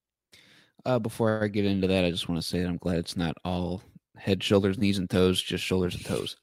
Before I get into that, I just want to say that I'm glad it's not all head, shoulders, knees, and toes, just shoulders and toes.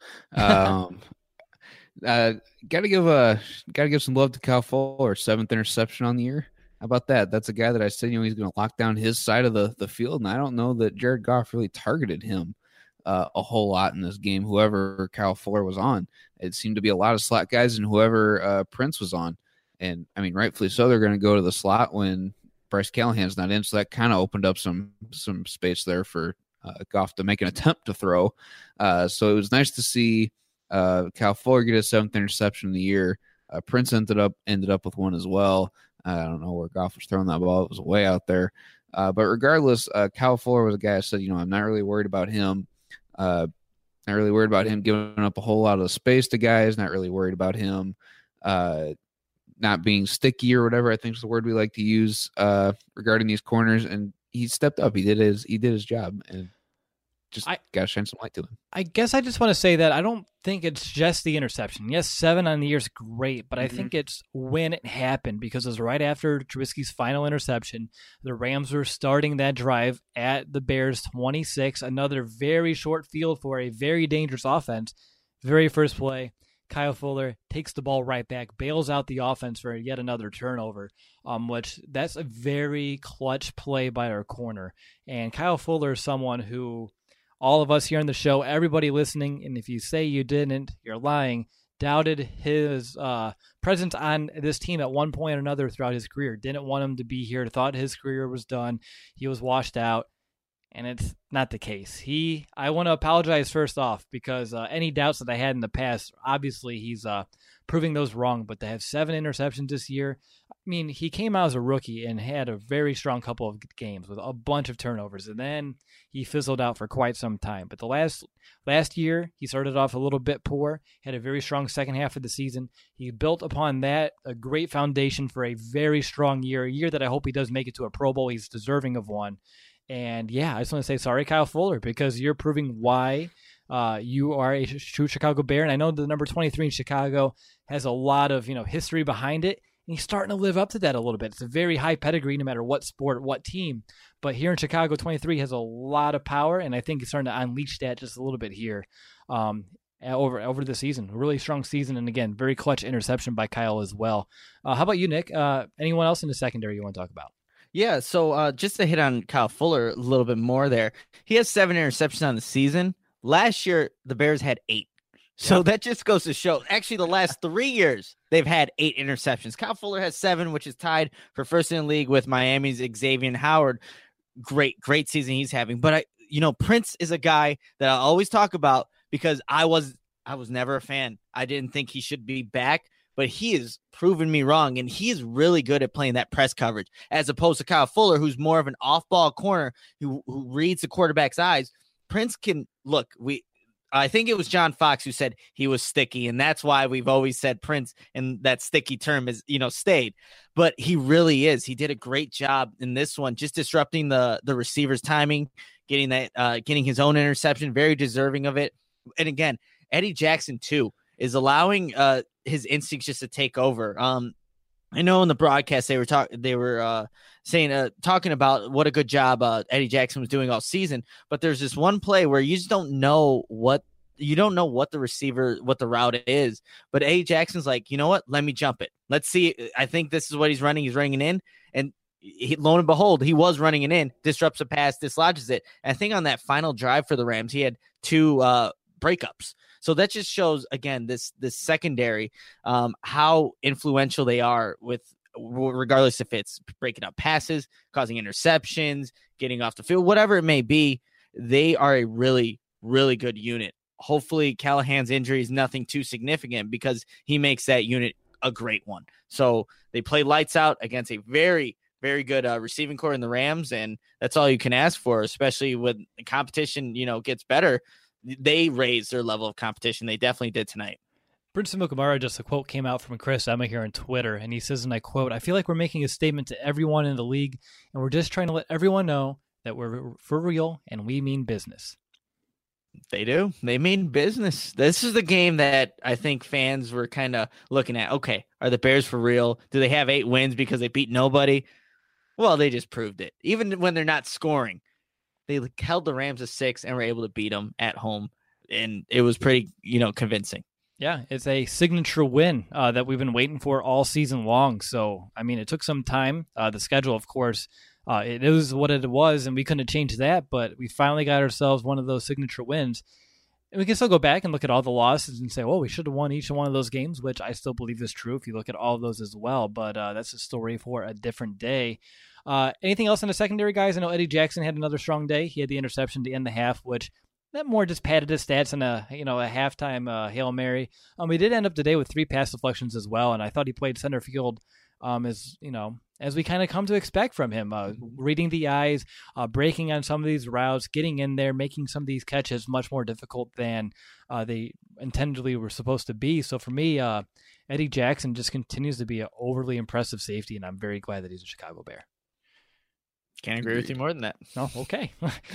Gotta give some love to Kyle Fuller, 7th interception on the year. How about that? That's a guy that I said he's going to lock down his side of the field, and I don't know that Jared Goff really targeted him a whole lot in this game. Whoever Kyle Fuller was on, it seemed to be a lot of slot guys, and whoever Prince was on. And I mean, rightfully so, they're going to go to the slot when Bryce Callahan's not in. So that kind of opened up some space there for Goff to make an attempt to throw. So it was nice to see Kyle Fuller get his 7th interception of the year. Prince ended up with one as well. I don't know where Goff was throwing that ball. It was way out there. But regardless, Kyle Fuller was a guy I said, I'm not really worried about him. Not really worried about him giving up a whole lot of space to guys. Not really worried about him not being sticky or whatever I think is the word we like to use regarding these corners. And he stepped up. He did his job. And just got to shine some light to him. I guess I just want to say that I don't think it's just the interception. Yes, 7 on the year is great, but I think it's when it happened, because it was right after Trubisky's final interception. The Rams were starting that drive at the Bears 26, another very short field for a very dangerous offense. Very first play, Kyle Fuller takes the ball right back, bails out the offense for yet another turnover, which that's a very clutch play by our corner. And Kyle Fuller is someone who all of us here on the show, everybody listening, and if you say you didn't, you're lying, doubted his presence on this team at one point or another throughout his career, didn't want him to be here, thought his career was done, he was washed out, and it's not the case. I want to apologize first off, because any doubts that I had in the past, obviously he's proving those wrong, but to have 7 interceptions this year, I mean, he came out as a rookie and had a very strong couple of games with a bunch of turnovers, and then he fizzled out for quite some time. But the last year, he started off a little bit poor, had a very strong second half of the season. He built upon that a great foundation for a very strong year, a year that I hope he does make it to a Pro Bowl. He's deserving of one. And yeah, I just want to say sorry, Kyle Fuller, because you're proving why you are a true Chicago Bear. And I know the number 23 in Chicago has a lot of history behind it. And he's starting to live up to that a little bit. It's a very high pedigree no matter what sport, what team. But here in Chicago, 23 has a lot of power, and I think he's starting to unleash that just a little bit here over the season. A really strong season, and again, very clutch interception by Kyle as well. How about you, Nick? Anyone else in the secondary you want to talk about? Yeah, so just to hit on Kyle Fuller a little bit more there, he has 7 interceptions on the season. Last year, the Bears had 8. So that just goes to show, actually, the last 3 years, they've had 8 interceptions. Kyle Fuller has 7, which is tied for first in the league with Miami's Xavier Howard. Great season he's having. But, Prince is a guy that I always talk about because I was never a fan. I didn't think he should be back, but he has proven me wrong, and he is really good at playing that press coverage as opposed to Kyle Fuller, who's more of an off-ball corner who reads the quarterback's eyes. Prince can look. I think it was John Fox who said he was sticky, and that's why we've always said Prince, and that sticky term is, stayed. But he really is. He did a great job in this one, just disrupting the receiver's timing, getting his own interception, very deserving of it. And again, Eddie Jackson too is allowing his instincts just to take over. I know in the broadcast they were talking about what a good job Eddie Jackson was doing all season, but there's this one play where you just don't know what the receiver, what the route is, but Eddie Jackson's like, you know what? Let me jump it. Let's see. I think this is what he's running. He's running it in, and lo and behold, he was running it in, disrupts a pass, dislodges it. And I think on that final drive for the Rams, he had 2 breakups. So that just shows, again, this secondary, how influential they are with, regardless if it's breaking up passes, causing interceptions, getting off the field, whatever it may be. They are a really, really good unit. Hopefully Callahan's injury is nothing too significant because he makes that unit a great one. So they play lights out against a very, very good receiving core in the Rams, and that's all you can ask for, especially when the competition, gets better. They raised their level of competition. They definitely did tonight. Prince Amukamara, just a quote came out from Chris Emma here on Twitter, and he says, and I quote, "I feel like we're making a statement to everyone in the league, and we're just trying to let everyone know that we're for real and we mean business." They do. They mean business. This is the game that I think fans were kind of looking at. Okay, are the Bears for real? Do they have 8 wins because they beat nobody? Well, they just proved it. Even when they're not scoring, they held the Rams to 6 and were able to beat them at home. And it was pretty, convincing. Yeah, it's a signature win that we've been waiting for all season long. So, I mean, it took some time. The schedule, of course, it is what it was, and we couldn't have changed that. But we finally got ourselves one of those signature wins. And we can still go back and look at all the losses and say, well, we should have won each one of those games, which I still believe is true if you look at all of those as well. But that's a story for a different day. Anything else in the secondary, guys? I know Eddie Jackson had another strong day. He had the interception to end the half, which that more just padded his stats in a halftime Hail Mary. We did end up today with 3 pass deflections as well, and I thought he played center field as we kind of come to expect from him, reading the eyes, breaking on some of these routes, getting in there, making some of these catches much more difficult than they intendedly were supposed to be. So for me, Eddie Jackson just continues to be an overly impressive safety, and I'm very glad that he's a Chicago Bear. Can't agree with you more than that. Oh, okay.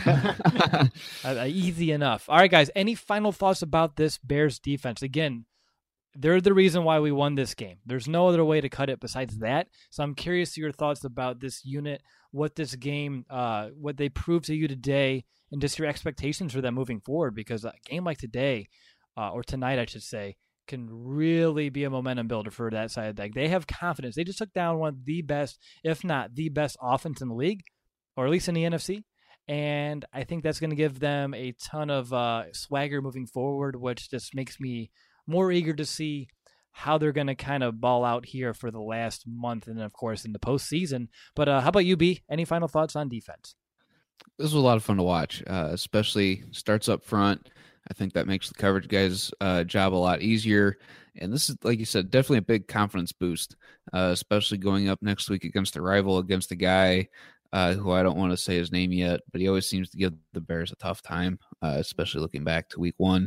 Easy enough. All right, guys. Any final thoughts about this Bears defense? Again, they're the reason why we won this game. There's no other way to cut it besides that. So I'm curious to your thoughts about this unit, what this game, what they proved to you today, and just your expectations for them moving forward. Because a game like today, or tonight, I should say, can really be a momentum builder for that side of the deck. They have confidence. They just took down one of the best, if not the best offense in the league, or at least in the NFC. And I think that's going to give them a ton of swagger moving forward, which just makes me more eager to see how they're going to kind of ball out here for the last month and, of course, in the postseason. But how about you, B? Any final thoughts on defense? This was a lot of fun to watch, especially starts up front. I think that makes the coverage guys' job a lot easier. And this is, like you said, definitely a big confidence boost, especially going up next week against a rival, against a guy who I don't want to say his name yet, but he always seems to give the Bears a tough time, especially looking back to week one.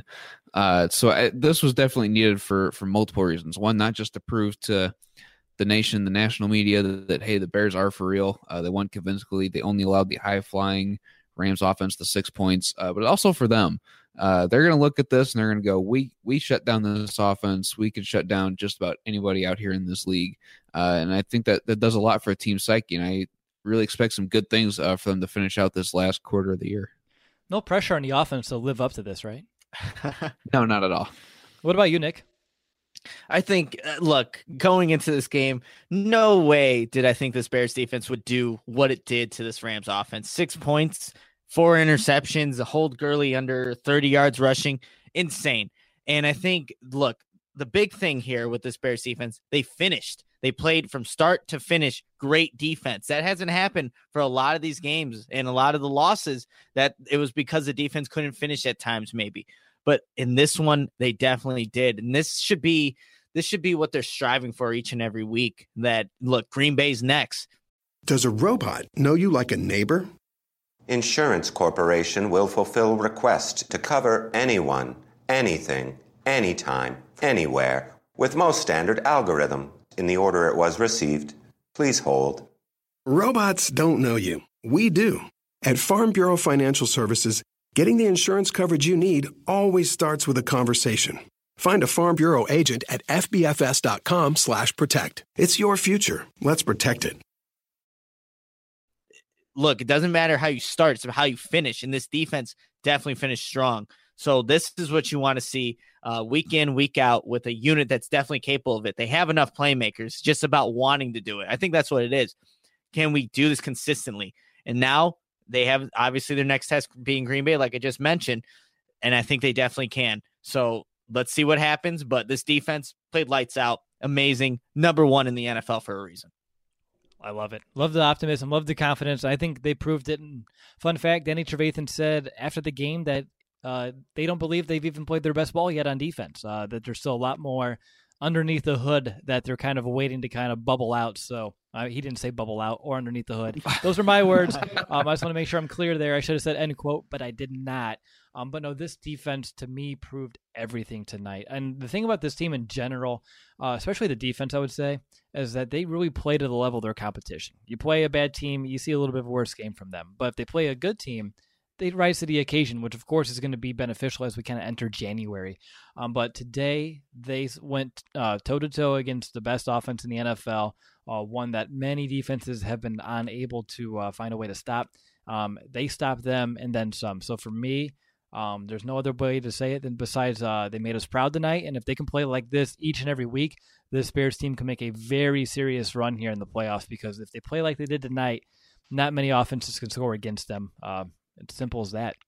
This was definitely needed for multiple reasons. One, not just to prove to the nation, the national media, that hey, the Bears are for real. They won convincingly. They only allowed the high-flying Rams offense to 6 points, but also for them. They're going to look at this and they're going to go, we shut down this offense. We can shut down just about anybody out here in this league. And I think that does a lot for a team psyche, and I really expect some good things for them to finish out this last quarter of the year. No pressure on the offense to live up to this, right? No, not at all. What about you, Nick? I think, look, going into this game, no way did I think this Bears defense would do what it did to this Rams offense. 6 points, 4 interceptions, a hold Gurley under 30 yards rushing. Insane. And I think, look, the big thing here with this Bears defense, they finished. They played from start to finish great defense. That hasn't happened for a lot of these games, and a lot of the losses that it was because the defense couldn't finish at times maybe. But in this one, they definitely did. And this should be what they're striving for each and every week. That, look, Green Bay's next. Does a robot know you like a neighbor? Insurance Corporation will fulfill requests to cover anyone, anything, anytime, anywhere, with most standard algorithm in the order it was received. Please hold. Robots don't know you. We do. At Farm Bureau Financial Services, getting the insurance coverage you need always starts with a conversation. Find a Farm Bureau agent at fbfs.com/protect. It's your future. Let's protect it. Look, it doesn't matter how you start, it's how you finish. And this defense definitely finished strong. So this is what you want to see week in, week out with a unit that's definitely capable of it. They have enough playmakers, just about wanting to do it. I think that's what it is. Can we do this consistently? And now they have, obviously, their next test being Green Bay, like I just mentioned, and I think they definitely can. So let's see what happens. But this defense played lights out. Amazing. Number one in the NFL for a reason. I love it. Love the optimism. Love the confidence. I think they proved it. And fun fact, Danny Trevathan said after the game that they don't believe they've even played their best ball yet on defense, that there's still a lot more underneath the hood that they're kind of waiting to kind of bubble out. So he didn't say bubble out or underneath the hood. Those are my words. I just want to make sure I'm clear there. I should have said end quote, but I did not. But no, this defense to me proved everything tonight. And the thing about this team in general, especially the defense, I would say, is that they really play to the level of their competition. You play a bad team, you see a little bit of a worse game from them. But if they play a good team, they rise to the occasion, which of course is going to be beneficial as we kind of enter January. But today they went toe-to-toe against the best offense in the NFL, one that many defenses have been unable to find a way to stop. They stopped them and then some. So for me, there's no other way to say it than besides they made us proud tonight. And if they can play like this each and every week, this Bears team can make a very serious run here in the playoffs, because if they play like they did tonight, not many offenses can score against them. It's simple as that.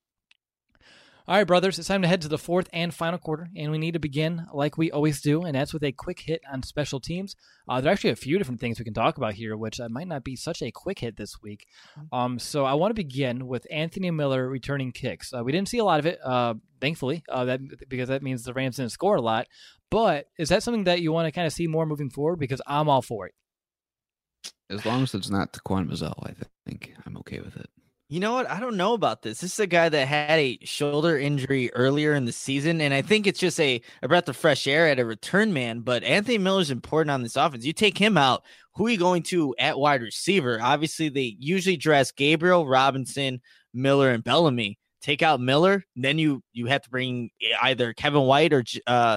All right, brothers, it's time to head to the fourth and final quarter, and we need to begin like we always do, and that's with a quick hit on special teams. There are actually a few different things we can talk about here, which might not be such a quick hit this week. So I want to begin with Anthony Miller returning kicks. We didn't see a lot of it, thankfully, because that means the Rams didn't score a lot. But is that something that you want to kind of see more moving forward? Because I'm all for it. As long as it's not Taquan Mizzell, I think I'm okay with it. You know what? I don't know about this. This is a guy that had a shoulder injury earlier in the season, and I think it's just a breath of fresh air at a return man. But Anthony Miller's important on this offense. You take him out, who are you going to at wide receiver? Obviously, they usually dress Gabriel, Robinson, Miller, and Bellamy. Take out Miller, then you have to bring either Kevin White or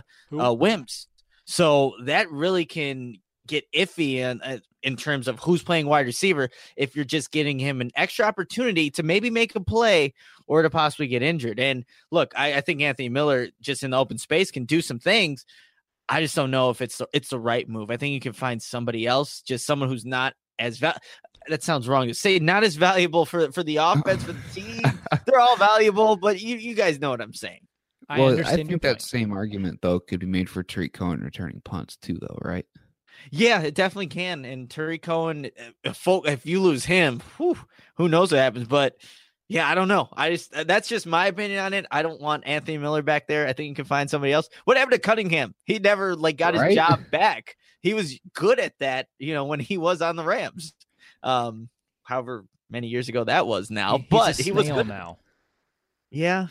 Wims. So that really can get iffy in terms of who's playing wide receiver if you're just getting him an extra opportunity to maybe make a play or to possibly get injured. And look, I think Anthony Miller just in the open space can do some things. I just don't know if it's the right move. I think you can find somebody else, just someone who's not as that sounds wrong to say, not as valuable for the offense, for the team. They're all valuable, but you guys know what I'm saying. Well, I think that same argument, though, could be made for Tariq Cohen returning punts, too, though, right? Yeah, it definitely can. And Tariq Cohen, if you lose him, who knows what happens. But, yeah, I don't know. That's just my opinion on it. I don't want Anthony Miller back there. I think you can find somebody else. What happened to Cunningham? He never, got his job back. He was good at that, when he was on the Rams. However many years ago that was now. But he was good now. Yeah.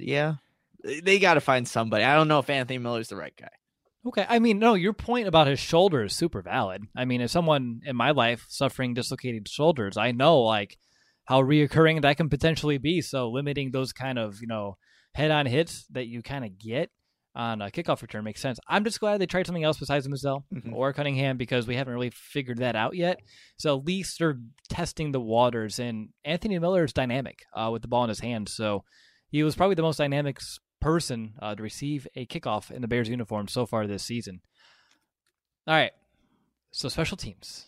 They got to find somebody. I don't know if Anthony Miller's the right guy. Okay. I mean, no, your point about his shoulder is super valid. I mean, as someone in my life suffering dislocated shoulders, I know how reoccurring that can potentially be. So limiting those kind of, head-on hits that you kind of get on a kickoff return makes sense. I'm just glad they tried something else besides Mizell or Cunningham because we haven't really figured that out yet. So at least they're testing the waters. And Anthony Miller is dynamic with the ball in his hand. So he was probably the most dynamic person to receive a kickoff in the Bears uniform so far this season. All right. So special teams.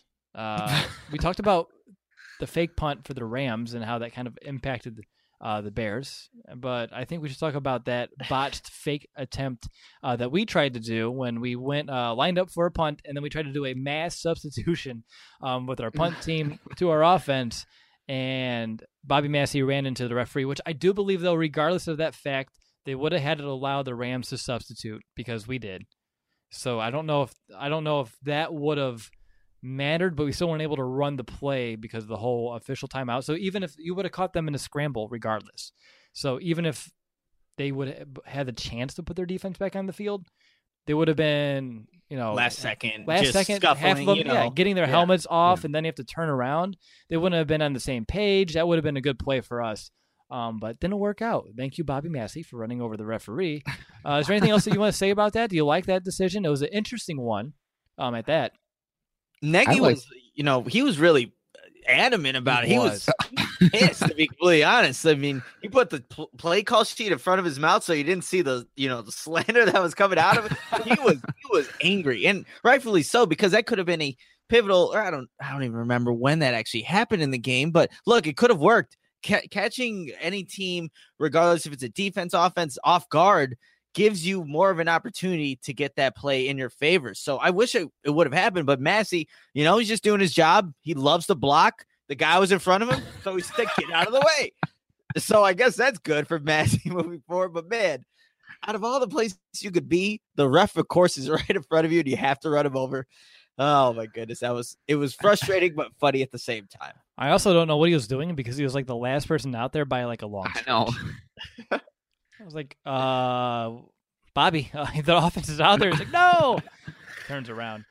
We talked about the fake punt for the Rams and how that kind of impacted the Bears, but I think we should talk about that botched fake attempt that we tried to do when we went lined up for a punt, and then we tried to do a mass substitution with our punt team to our offense, and Bobby Massey ran into the referee, which I do believe, though, regardless of that fact, they would have had to allow the Rams to substitute because we did. So I don't know if that would have mattered, but we still weren't able to run the play because of the whole official timeout. So even if you would have caught them in a scramble regardless. So even if they would have had the chance to put their defense back on the field, they would have been, last second, half of them, getting their helmets off, and then you have to turn around. They wouldn't have been on the same page. That would have been a good play for us. But didn't work out. Thank you, Bobby Massey, for running over the referee. Is there anything else that you want to say about that? Do you like that decision? It was an interesting one at that. Nagy was, he was really adamant about it. He was pissed, to be completely honest. I mean, he put the play call sheet in front of his mouth so you didn't see the slander that was coming out of it. He was angry, and rightfully so, because that could have been a pivotal, or I don't even remember when that actually happened in the game, but look, it could have worked. Catching any team, regardless if it's a defense, offense, off guard, gives you more of an opportunity to get that play in your favor. So I wish it would have happened, but Massey, he's just doing his job. He loves to block. The guy was in front of him, so he's like, get out of the way. So I guess that's good for Massey moving forward. But man, out of all the places you could be, the ref, of course, is right in front of you, and you have to run him over. Oh my goodness, it was frustrating but funny at the same time. I also don't know what he was doing because he was the last person out there by a long stretch. I know. I was like, Bobby, the offense is out there. He's like, no! Turns around.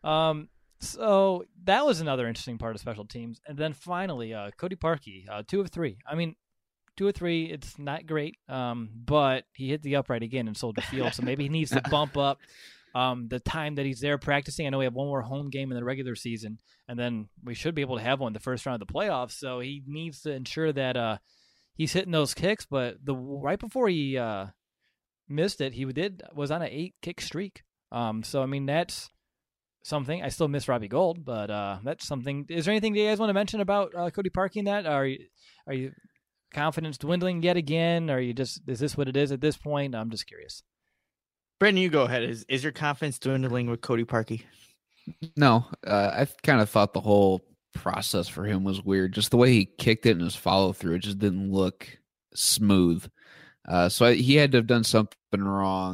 So that was another interesting part of special teams. And then finally, Cody Parkey, 2 of 3. I mean, 2 of 3, it's not great, but he hit the upright again and sold the field. So maybe he needs to bump up the time that he's there practicing. I know we have one more home game in the regular season, and then we should be able to have one the first round of the playoffs. So he needs to ensure that he's hitting those kicks. But right before he missed it, he was on an 8-kick streak. So I mean, that's something. I still miss Robbie Gould, but that's something. Is there anything you guys want to mention about Cody Parkey in that? Are you confidence dwindling yet again? Or is this what it is at this point? I'm just curious. Brendan, you go ahead. Is your confidence dwindling with Cody Parkey? No, I kind of thought the whole process for him was weird. Just the way he kicked it and his follow through, it just didn't look smooth. So he had to have done something wrong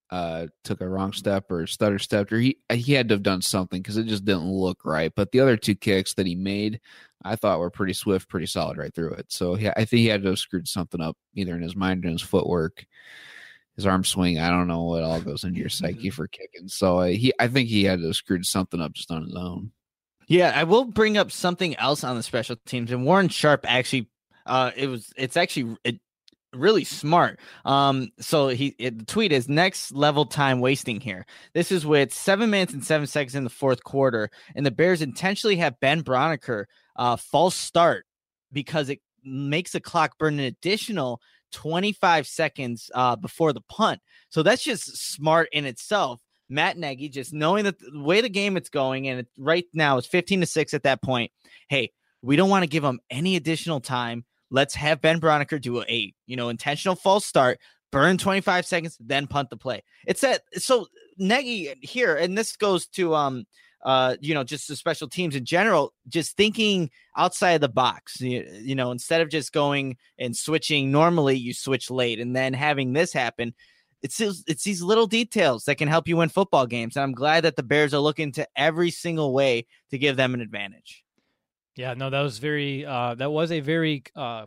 took a wrong step or stutter stepped, or he had to have done something because it just didn't look right. But the other 2 kicks that he made, I thought were pretty swift, pretty solid right through it. So I think he had to have screwed something up either in his mind or in his footwork, his arm swing. I don't know what all goes into your psyche for kicking. So I think he had to have screwed something up just on his own. Yeah, I will bring up something else on the special teams, and Warren Sharp actually, it's really smart. So the tweet is next level time wasting here. This is with 7 minutes and 7 seconds in the fourth quarter, and the Bears intentionally have Ben Broniker false start because it makes the clock burn an additional 25 seconds before the punt. So that's just smart in itself. Matt Nagy, just knowing that the way the game it's going, and right now it's 15-6 at that point. Hey, we don't want to give them any additional time. Let's have Ben Broniker do a intentional false start, burn 25 seconds, then punt the play. It's that. So Nagy here, and this goes to just the special teams in general, just thinking outside the box. Instead of just going and switching normally, you switch late, and then having this happen. It's these little details that can help you win football games. And I'm glad that the Bears are looking to every single way to give them an advantage. Yeah, no, that was a very,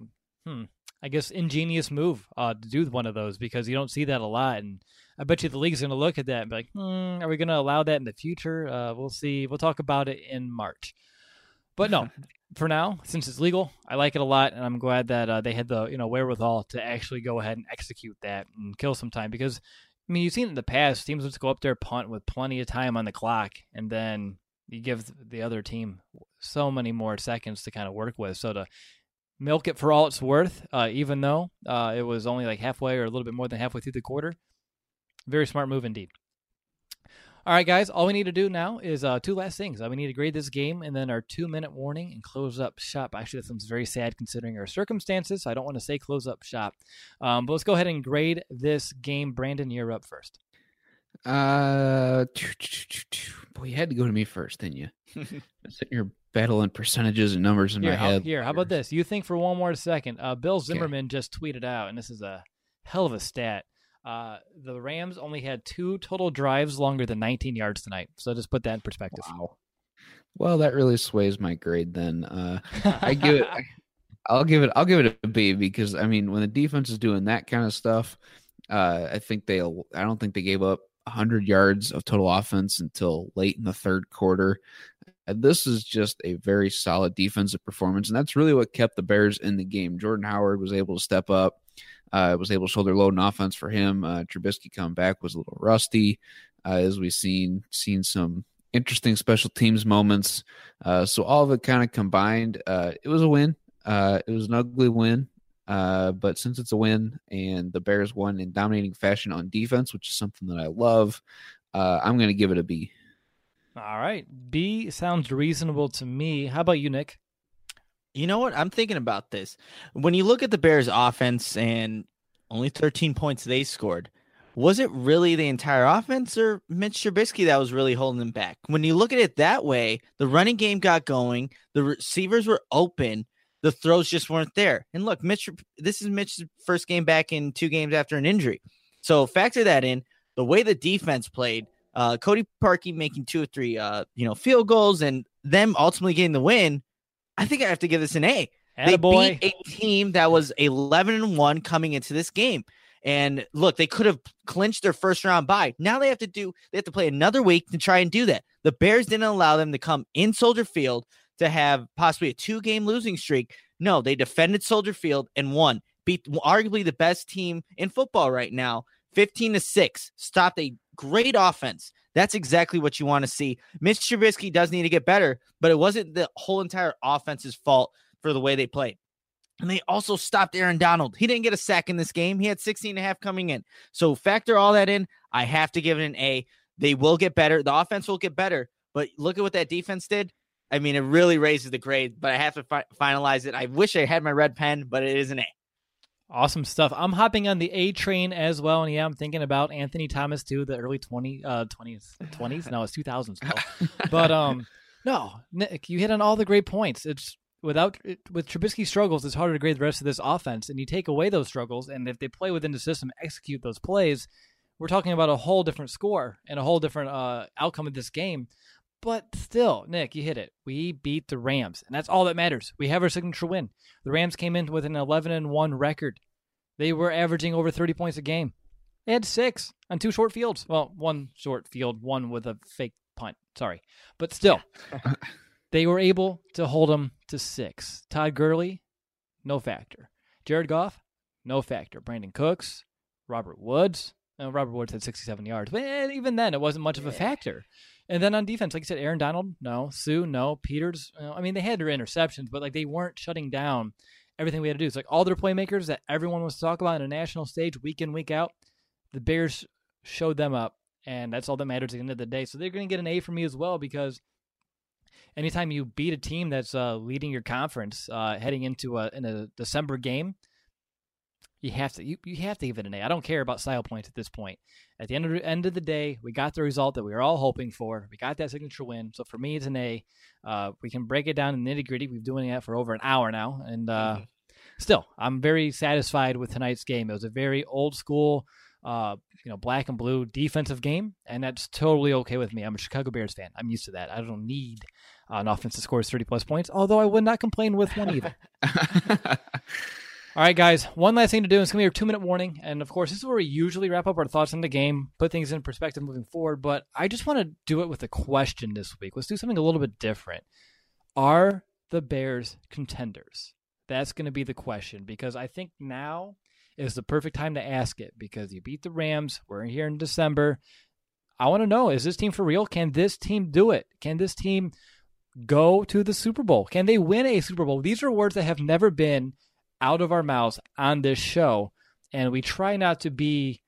I guess, ingenious move to do one of those, because you don't see that a lot. And I bet you the league's going to look at that and be like, are we going to allow that in the future? We'll see. We'll talk about it in March. But no, for now, since it's legal, I like it a lot, and I'm glad that they had the wherewithal to actually go ahead and execute that and kill some time. Because I mean, you've seen in the past, teams just go up there, punt with plenty of time on the clock, and then you give the other team so many more seconds to kind of work with. So to milk it for all it's worth, even though it was only like halfway or a little bit more than halfway through the quarter, very smart move indeed. All right, guys, all we need to do now is 2 last things. We need to grade this game and then our 2-minute warning and close up shop. Actually, that sounds very sad considering our circumstances. So I don't want to say close up shop. But let's go ahead and grade this game. Brandon, you're up first. Boy, you had to go to me first, didn't you? Sitting here battling percentages and numbers in my head. How about this? You think for one more second. Bill Zimmerman just tweeted out, and this is a hell of a stat. The Rams only had 2 total drives longer than 19 yards tonight. So just put that in perspective. Wow. Well, that really sways my grade then. I'll give it a B, because I mean, when the defense is doing that kind of stuff, I don't think they gave up 100 yards of total offense until late in the third quarter. This is just a very solid defensive performance, and that's really what kept the Bears in the game. Jordan Howard was able to step up. Was able to shoulder load an offense for him. Trubisky coming back was a little rusty, as we've seen some interesting special teams moments. So all of it kind of combined. It was a win. It was an ugly win, but since it's a win and the Bears won in dominating fashion on defense, which is something that I love, I'm going to give it a B. All right. B sounds reasonable to me. How about you, Nick? You know what? I'm thinking about this. When you look at the Bears offense and only 13 points they scored, was it really the entire offense or Mitch Trubisky that was really holding them back? When you look at it that way, the running game got going, the receivers were open, the throws just weren't there. And look, this is Mitch's first game back in 2 games after an injury. So factor that in. The way the defense played, Cody Parkey making 2 or 3 field goals and them ultimately getting the win, I think I have to give this an A. They beat a team that was 11-1 coming into this game. And look, they could have clinched their first round bye. Now they have to play another week to try and do that. The Bears didn't allow them to come in Soldier Field to have possibly a 2-game losing streak. No, they defended Soldier Field and won. Beat arguably the best team in football right now, 15-6. Stopped a great offense. That's exactly what you want to see. Mitch Trubisky does need to get better, but it wasn't the whole entire offense's fault for the way they played. And they also stopped Aaron Donald. He didn't get a sack in this game. He had 16.5 coming in. So factor all that in. I have to give it an A. They will get better. The offense will get better, but look at what that defense did. I mean, it really raises the grade, but I have to finalize it. I wish I had my red pen, but it is an A. Awesome stuff. I'm hopping on the A train as well, and yeah, I'm thinking about Anthony Thomas too, the early 20s. No, it's 2000s still. But no, Nick, you hit on all the great points. It's with Trubisky's struggles, it's harder to grade the rest of this offense, and you take away those struggles, and if they play within the system, execute those plays, we're talking about a whole different score and a whole different outcome of this game. But still, Nick, you hit it. We beat the Rams, and that's all that matters. We have our signature win. The Rams came in with an 11-1 record. They were averaging over 30 points a game. They had 6 on 2 short fields. Well, 1 short field, 1 with a fake punt. Sorry. But still, they were able to hold them to 6. Todd Gurley, no factor. Jared Goff, no factor. Brandon Cooks, Robert Woods. Robert Woods had 67 yards. But even then, it wasn't much of a factor. And then on defense, like you said, Aaron Donald, no. Sue, no. Peters, I mean, they had their interceptions, but like they weren't shutting down everything we had to do. It's like all their playmakers that everyone wants to talk about on a national stage week in, week out, the Bears showed them up, and that's all that matters at the end of the day. So they're going to get an A from me as well, because anytime you beat a team that's leading your conference heading into in a December game, you have to give it an A. I don't care about style points at this point. At the end of the day, we got the result that we were all hoping for. We got that signature win. So for me, it's an A. We can break it down in the nitty-gritty. We've been doing that for over an hour now. And still, I'm very satisfied with tonight's game. It was a very old school, black and blue defensive game, and that's totally okay with me. I'm a Chicago Bears fan. I'm used to that. I don't need an offense that scores 30-plus points, although I would not complain with one either. All right, guys, one last thing to do. It's going to be our 2-minute warning. And, of course, this is where we usually wrap up our thoughts on the game, put things in perspective moving forward. But I just want to do it with a question this week. Let's do something a little bit different. Are the Bears contenders? That's going to be the question, because I think now is the perfect time to ask it, because you beat the Rams. We're here in December. I want to know, is this team for real? Can this team do it? Can this team go to the Super Bowl? Can they win a Super Bowl? These are words that have never been out of our mouths on this show, and we try not to be,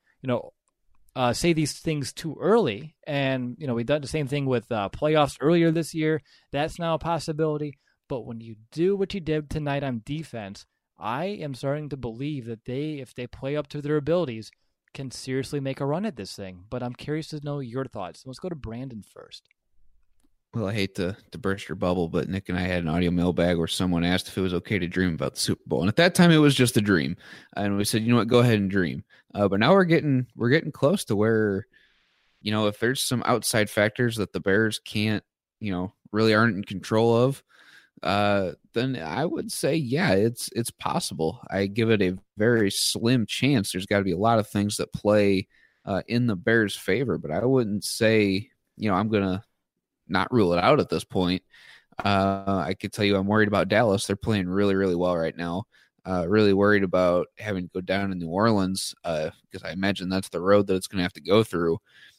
say these things too early. And, we done the same thing with playoffs earlier this year. That's now a possibility. But when you do what you did tonight on defense, I am starting to believe that if they play up to their abilities, can seriously make a run at this thing. But I'm curious to know your thoughts. Let's go to Brandon first. Well, I hate to burst your bubble, but Nick and I had an audio mailbag where someone asked if it was okay to dream about the Super Bowl. And at that time, it was just a dream. And we said, you know what, go ahead and dream. But now we're getting close to where, if there's some outside factors that the Bears can't, really aren't in control of, then I would say, yeah, it's possible. I give it a very slim chance. There's got to be a lot of things that play in the Bears' favor, but I wouldn't say, I'm going to not rule it out at this point. I could tell you I'm worried about Dallas. They're playing really, really well right now. Really worried about having to go down to New Orleans because I imagine that's the road that it's going to have to go through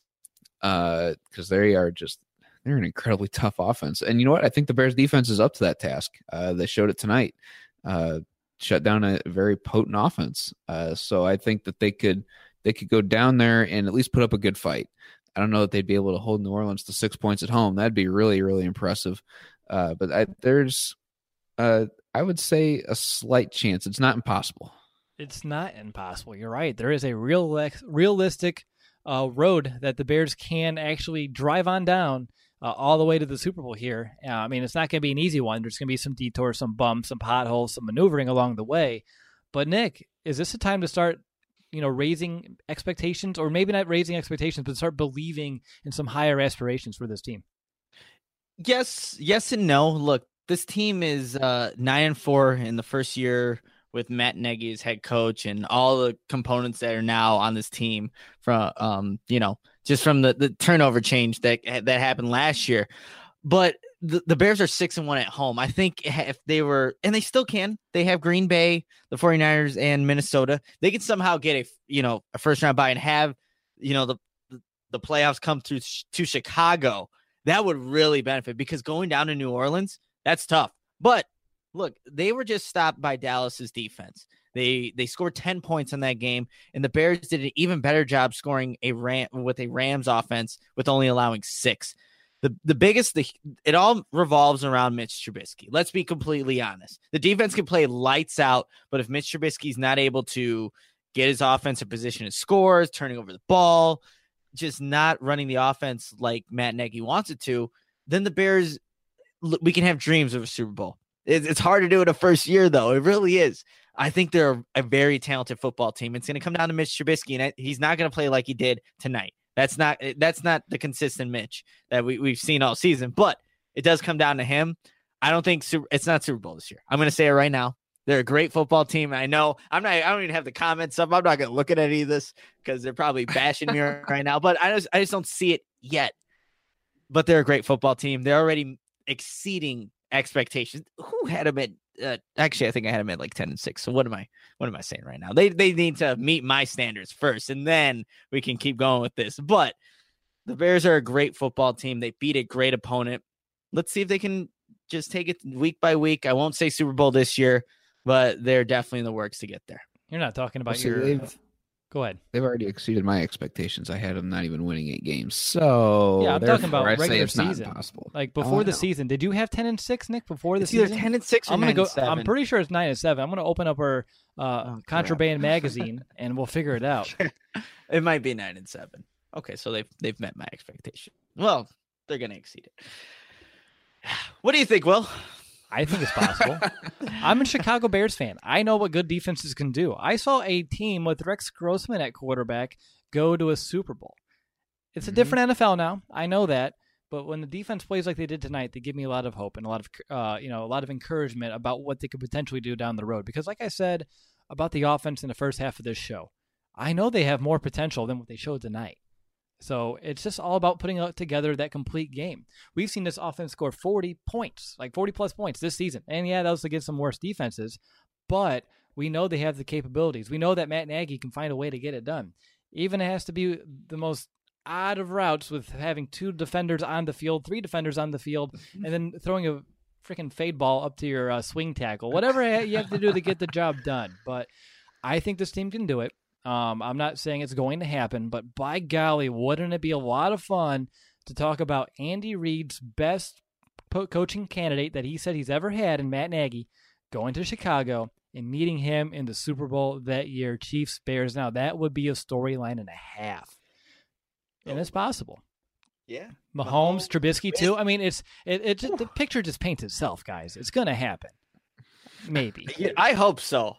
because they're an incredibly tough offense. And you know what? I think the Bears defense is up to that task. They showed it tonight. Shut down a very potent offense. So I think that they could go down there and at least put up a good fight. I don't know that they'd be able to hold New Orleans to 6 points at home. That'd be really, really impressive. But there's, I would say, a slight chance. It's not impossible. It's not impossible. You're right. There is a realistic road that the Bears can actually drive on down all the way to the Super Bowl here. I mean, it's not going to be an easy one. There's going to be some detours, some bumps, some potholes, some maneuvering along the way. But, Nick, is this a time to start raising expectations, or maybe not raising expectations, but start believing in some higher aspirations for this team? Yes and no. Look, this team is 9-4 in the first year with Matt Nagy as head coach, and all the components that are now on this team from just from the turnover change that happened last year. But the Bears are 6-1 at home. I think if they were, and they still can, they have Green Bay, the 49ers, and Minnesota. They can somehow get a first round bye and have, the playoffs come through to Chicago. That would really benefit, because going down to New Orleans, that's tough. But look, they were just stopped by Dallas's defense. They scored 10 points in that game, and the Bears did an even better job scoring with a Rams offense with only allowing 6. It all revolves around Mitch Trubisky. Let's be completely honest. The defense can play lights out, but if Mitch Trubisky's not able to get his offensive position and scores, turning over the ball, just not running the offense like Matt Nagy wants it to, then the Bears, we can have dreams of a Super Bowl. It's hard to do in a first year, though. It really is. I think they're a very talented football team. It's going to come down to Mitch Trubisky, and he's not going to play like he did tonight. That's not the consistent Mitch that we've seen all season, but it does come down to him. I don't think it's not Super Bowl this year. I'm going to say it right now. They're a great football team. I know I don't even have the comments up. I'm not going to look at any of this because they're probably bashing me right now, but I just don't see it yet. But they're a great football team. They're already exceeding expectations. Who had them at actually I think I had them at like 10-6. So what am I saying right now? They need to meet my standards first, and then we can keep going with this. But the Bears are a great football team. They beat a great opponent. Let's see if they can just take it week by week. I won't say Super Bowl this year, but they're definitely in the works to get there. You're not talking about Go ahead. They've already exceeded my expectations. I had them not even winning 8 games. So yeah, I'm talking about I regular it's season. Not possible. Like before the season, did you have 10-6, Nick? Before the It's season, either 10-6 or I'm gonna 9-7. go. I'm pretty sure it's 9-7. I'm gonna open up our Contraband magazine and we'll figure it out. It might be 9-7. Okay, so they've met my expectation. Well, they're gonna exceed it. What do you think, Will? I think it's possible. I'm a Chicago Bears fan. I know what good defenses can do. I saw a team with Rex Grossman at quarterback go to a Super Bowl. It's a different NFL now. I know that. But when the defense plays like they did tonight, they give me a lot of hope and a lot of encouragement about what they could potentially do down the road. Because like I said about the offense in the first half of this show, I know they have more potential than what they showed tonight. So it's just all about putting together that complete game. We've seen this offense score 40 points, like 40-plus points this season. And, yeah, that was against some worse defenses. But we know they have the capabilities. We know that Matt Nagy can find a way to get it done. Even it has to be the most odd of routes with having 2 defenders on the field, 3 defenders on the field, and then throwing a freaking fade ball up to your swing tackle. Whatever you have to do to get the job done. But I think this team can do it. I'm not saying it's going to happen, but by golly, wouldn't it be a lot of fun to talk about Andy Reid's best coaching candidate that he said he's ever had in Matt Nagy going to Chicago and meeting him in the Super Bowl that year, Chiefs Bears. Now that would be a storyline and a half, and it's possible. Yeah, Mahomes, Trubisky too. I mean, the picture just paints itself, guys. It's going to happen. Maybe. I hope so.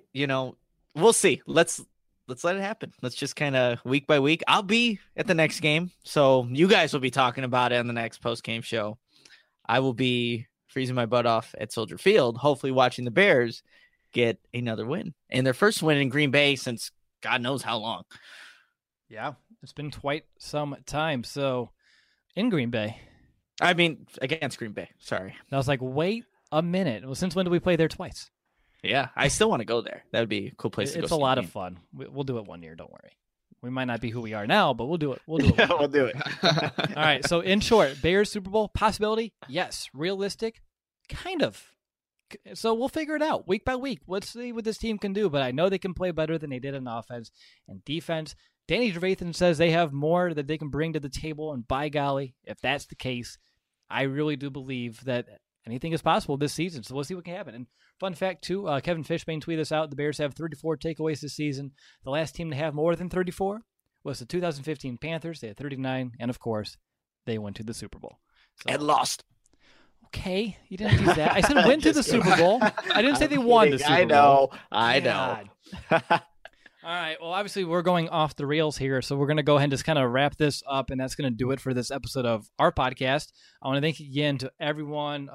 We'll see. Let's let it happen. Let's just kind of week by week. I'll be at the next game, so you guys will be talking about it on the next post-game show. I will be freezing my butt off at Soldier Field, hopefully watching the Bears get another win. And their first win in Green Bay since God knows how long. Yeah, it's been quite some time. So, in Green Bay. I mean, against Green Bay. Sorry. And I was like, wait a minute. Well, since when did we play there twice? Yeah, I still want to go there. That would be a cool place to go. It's a lot of fun. We'll do it one year. Don't worry. We might not be who we are now, but we'll do it. We'll do it. Yeah, we'll do it. All right. So, in short, Bears Super Bowl possibility? Yes. Realistic? Kind of. So we'll figure it out week by week. Let's see what this team can do. But I know they can play better than they did on offense and defense. Danny Trevathan says they have more that they can bring to the table. And by golly, if that's the case, I really do believe that anything is possible this season. So we'll see what can happen. And fun fact, too, Kevin Fishbane tweeted this out. The Bears have 34 takeaways this season. The last team to have more than 34 was the 2015 Panthers. They had 39. And, of course, they went to the Super Bowl. So, and lost. Okay, you didn't do that. I said went to the Super Bowl. I didn't say they won the Super Bowl. I know. All right. Well, obviously, we're going off the rails here, so we're going to go ahead and just kind of wrap this up, and that's going to do it for this episode of our podcast. I want to thank again to everyone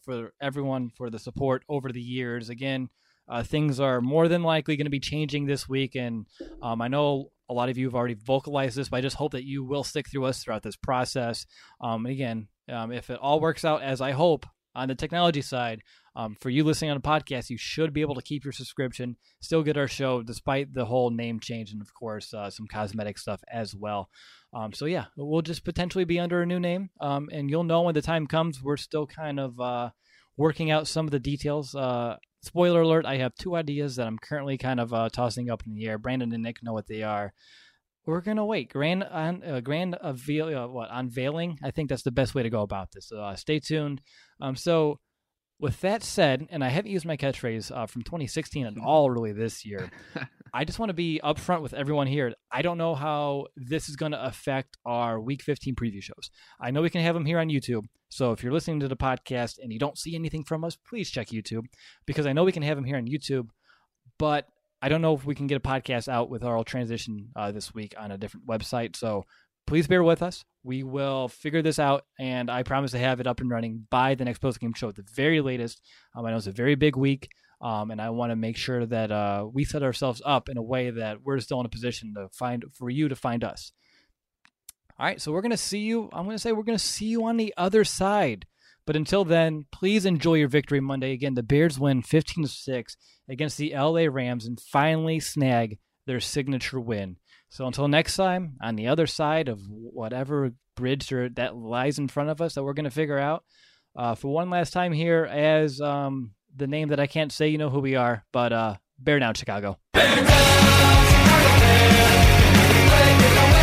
for the support over the years. Again, things are more than likely going to be changing this week, and I know a lot of you have already vocalized this, but I just hope that you will stick through us throughout this process. Again, if it all works out as I hope on the technology side, for you listening on a podcast, you should be able to keep your subscription, still get our show despite the whole name change and, of course, some cosmetic stuff as well. So, yeah, we'll just potentially be under a new name, and you'll know when the time comes. We're still kind of working out some of the details. Spoiler alert, I have 2 ideas that I'm currently kind of tossing up in the air. Brandon and Nick know what they are. We're going to wait. Unveiling, I think that's the best way to go about this. So stay tuned. So With that said, and I haven't used my catchphrase from 2016 at all really this year, I just want to be upfront with everyone here. I don't know how this is going to affect our Week 15 preview shows. I know we can have them here on YouTube, so if you're listening to the podcast and you don't see anything from us, please check YouTube, because I know we can have them here on YouTube, but I don't know if we can get a podcast out with our transition this week on a different website, so please bear with us. We will figure this out, and I promise to have it up and running by the next post-game show at the very latest. I know it's a very big week, and I want to make sure that we set ourselves up in a way that we're still in a position for you to find us. All right, so we're going to see you. I'm going to say we're going to see you on the other side. But until then, please enjoy your victory Monday. Again, the Bears win 15-6 against the LA Rams and finally snag their signature win. So until next time, on the other side of whatever bridge that lies in front of us that we're going to figure out, for one last time here as the name that I can't say, you know who we are, but Bear Down, Chicago. Bear down, Chicago Bears.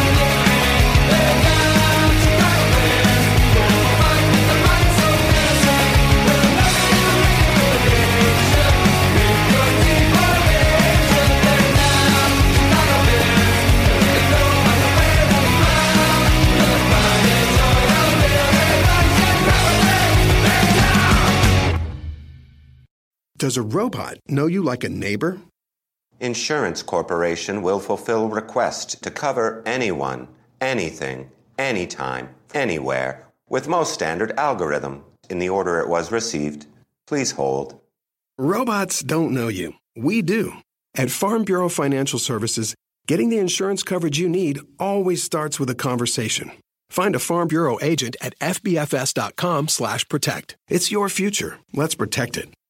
Does a robot know you like a neighbor? Insurance Corporation will fulfill request to cover anyone, anything, anytime, anywhere, with most standard algorithm in the order it was received. Please hold. Robots don't know you. We do. At Farm Bureau Financial Services, getting the insurance coverage you need always starts with a conversation. Find a Farm Bureau agent at fbfs.com/protect. It's your future. Let's protect it.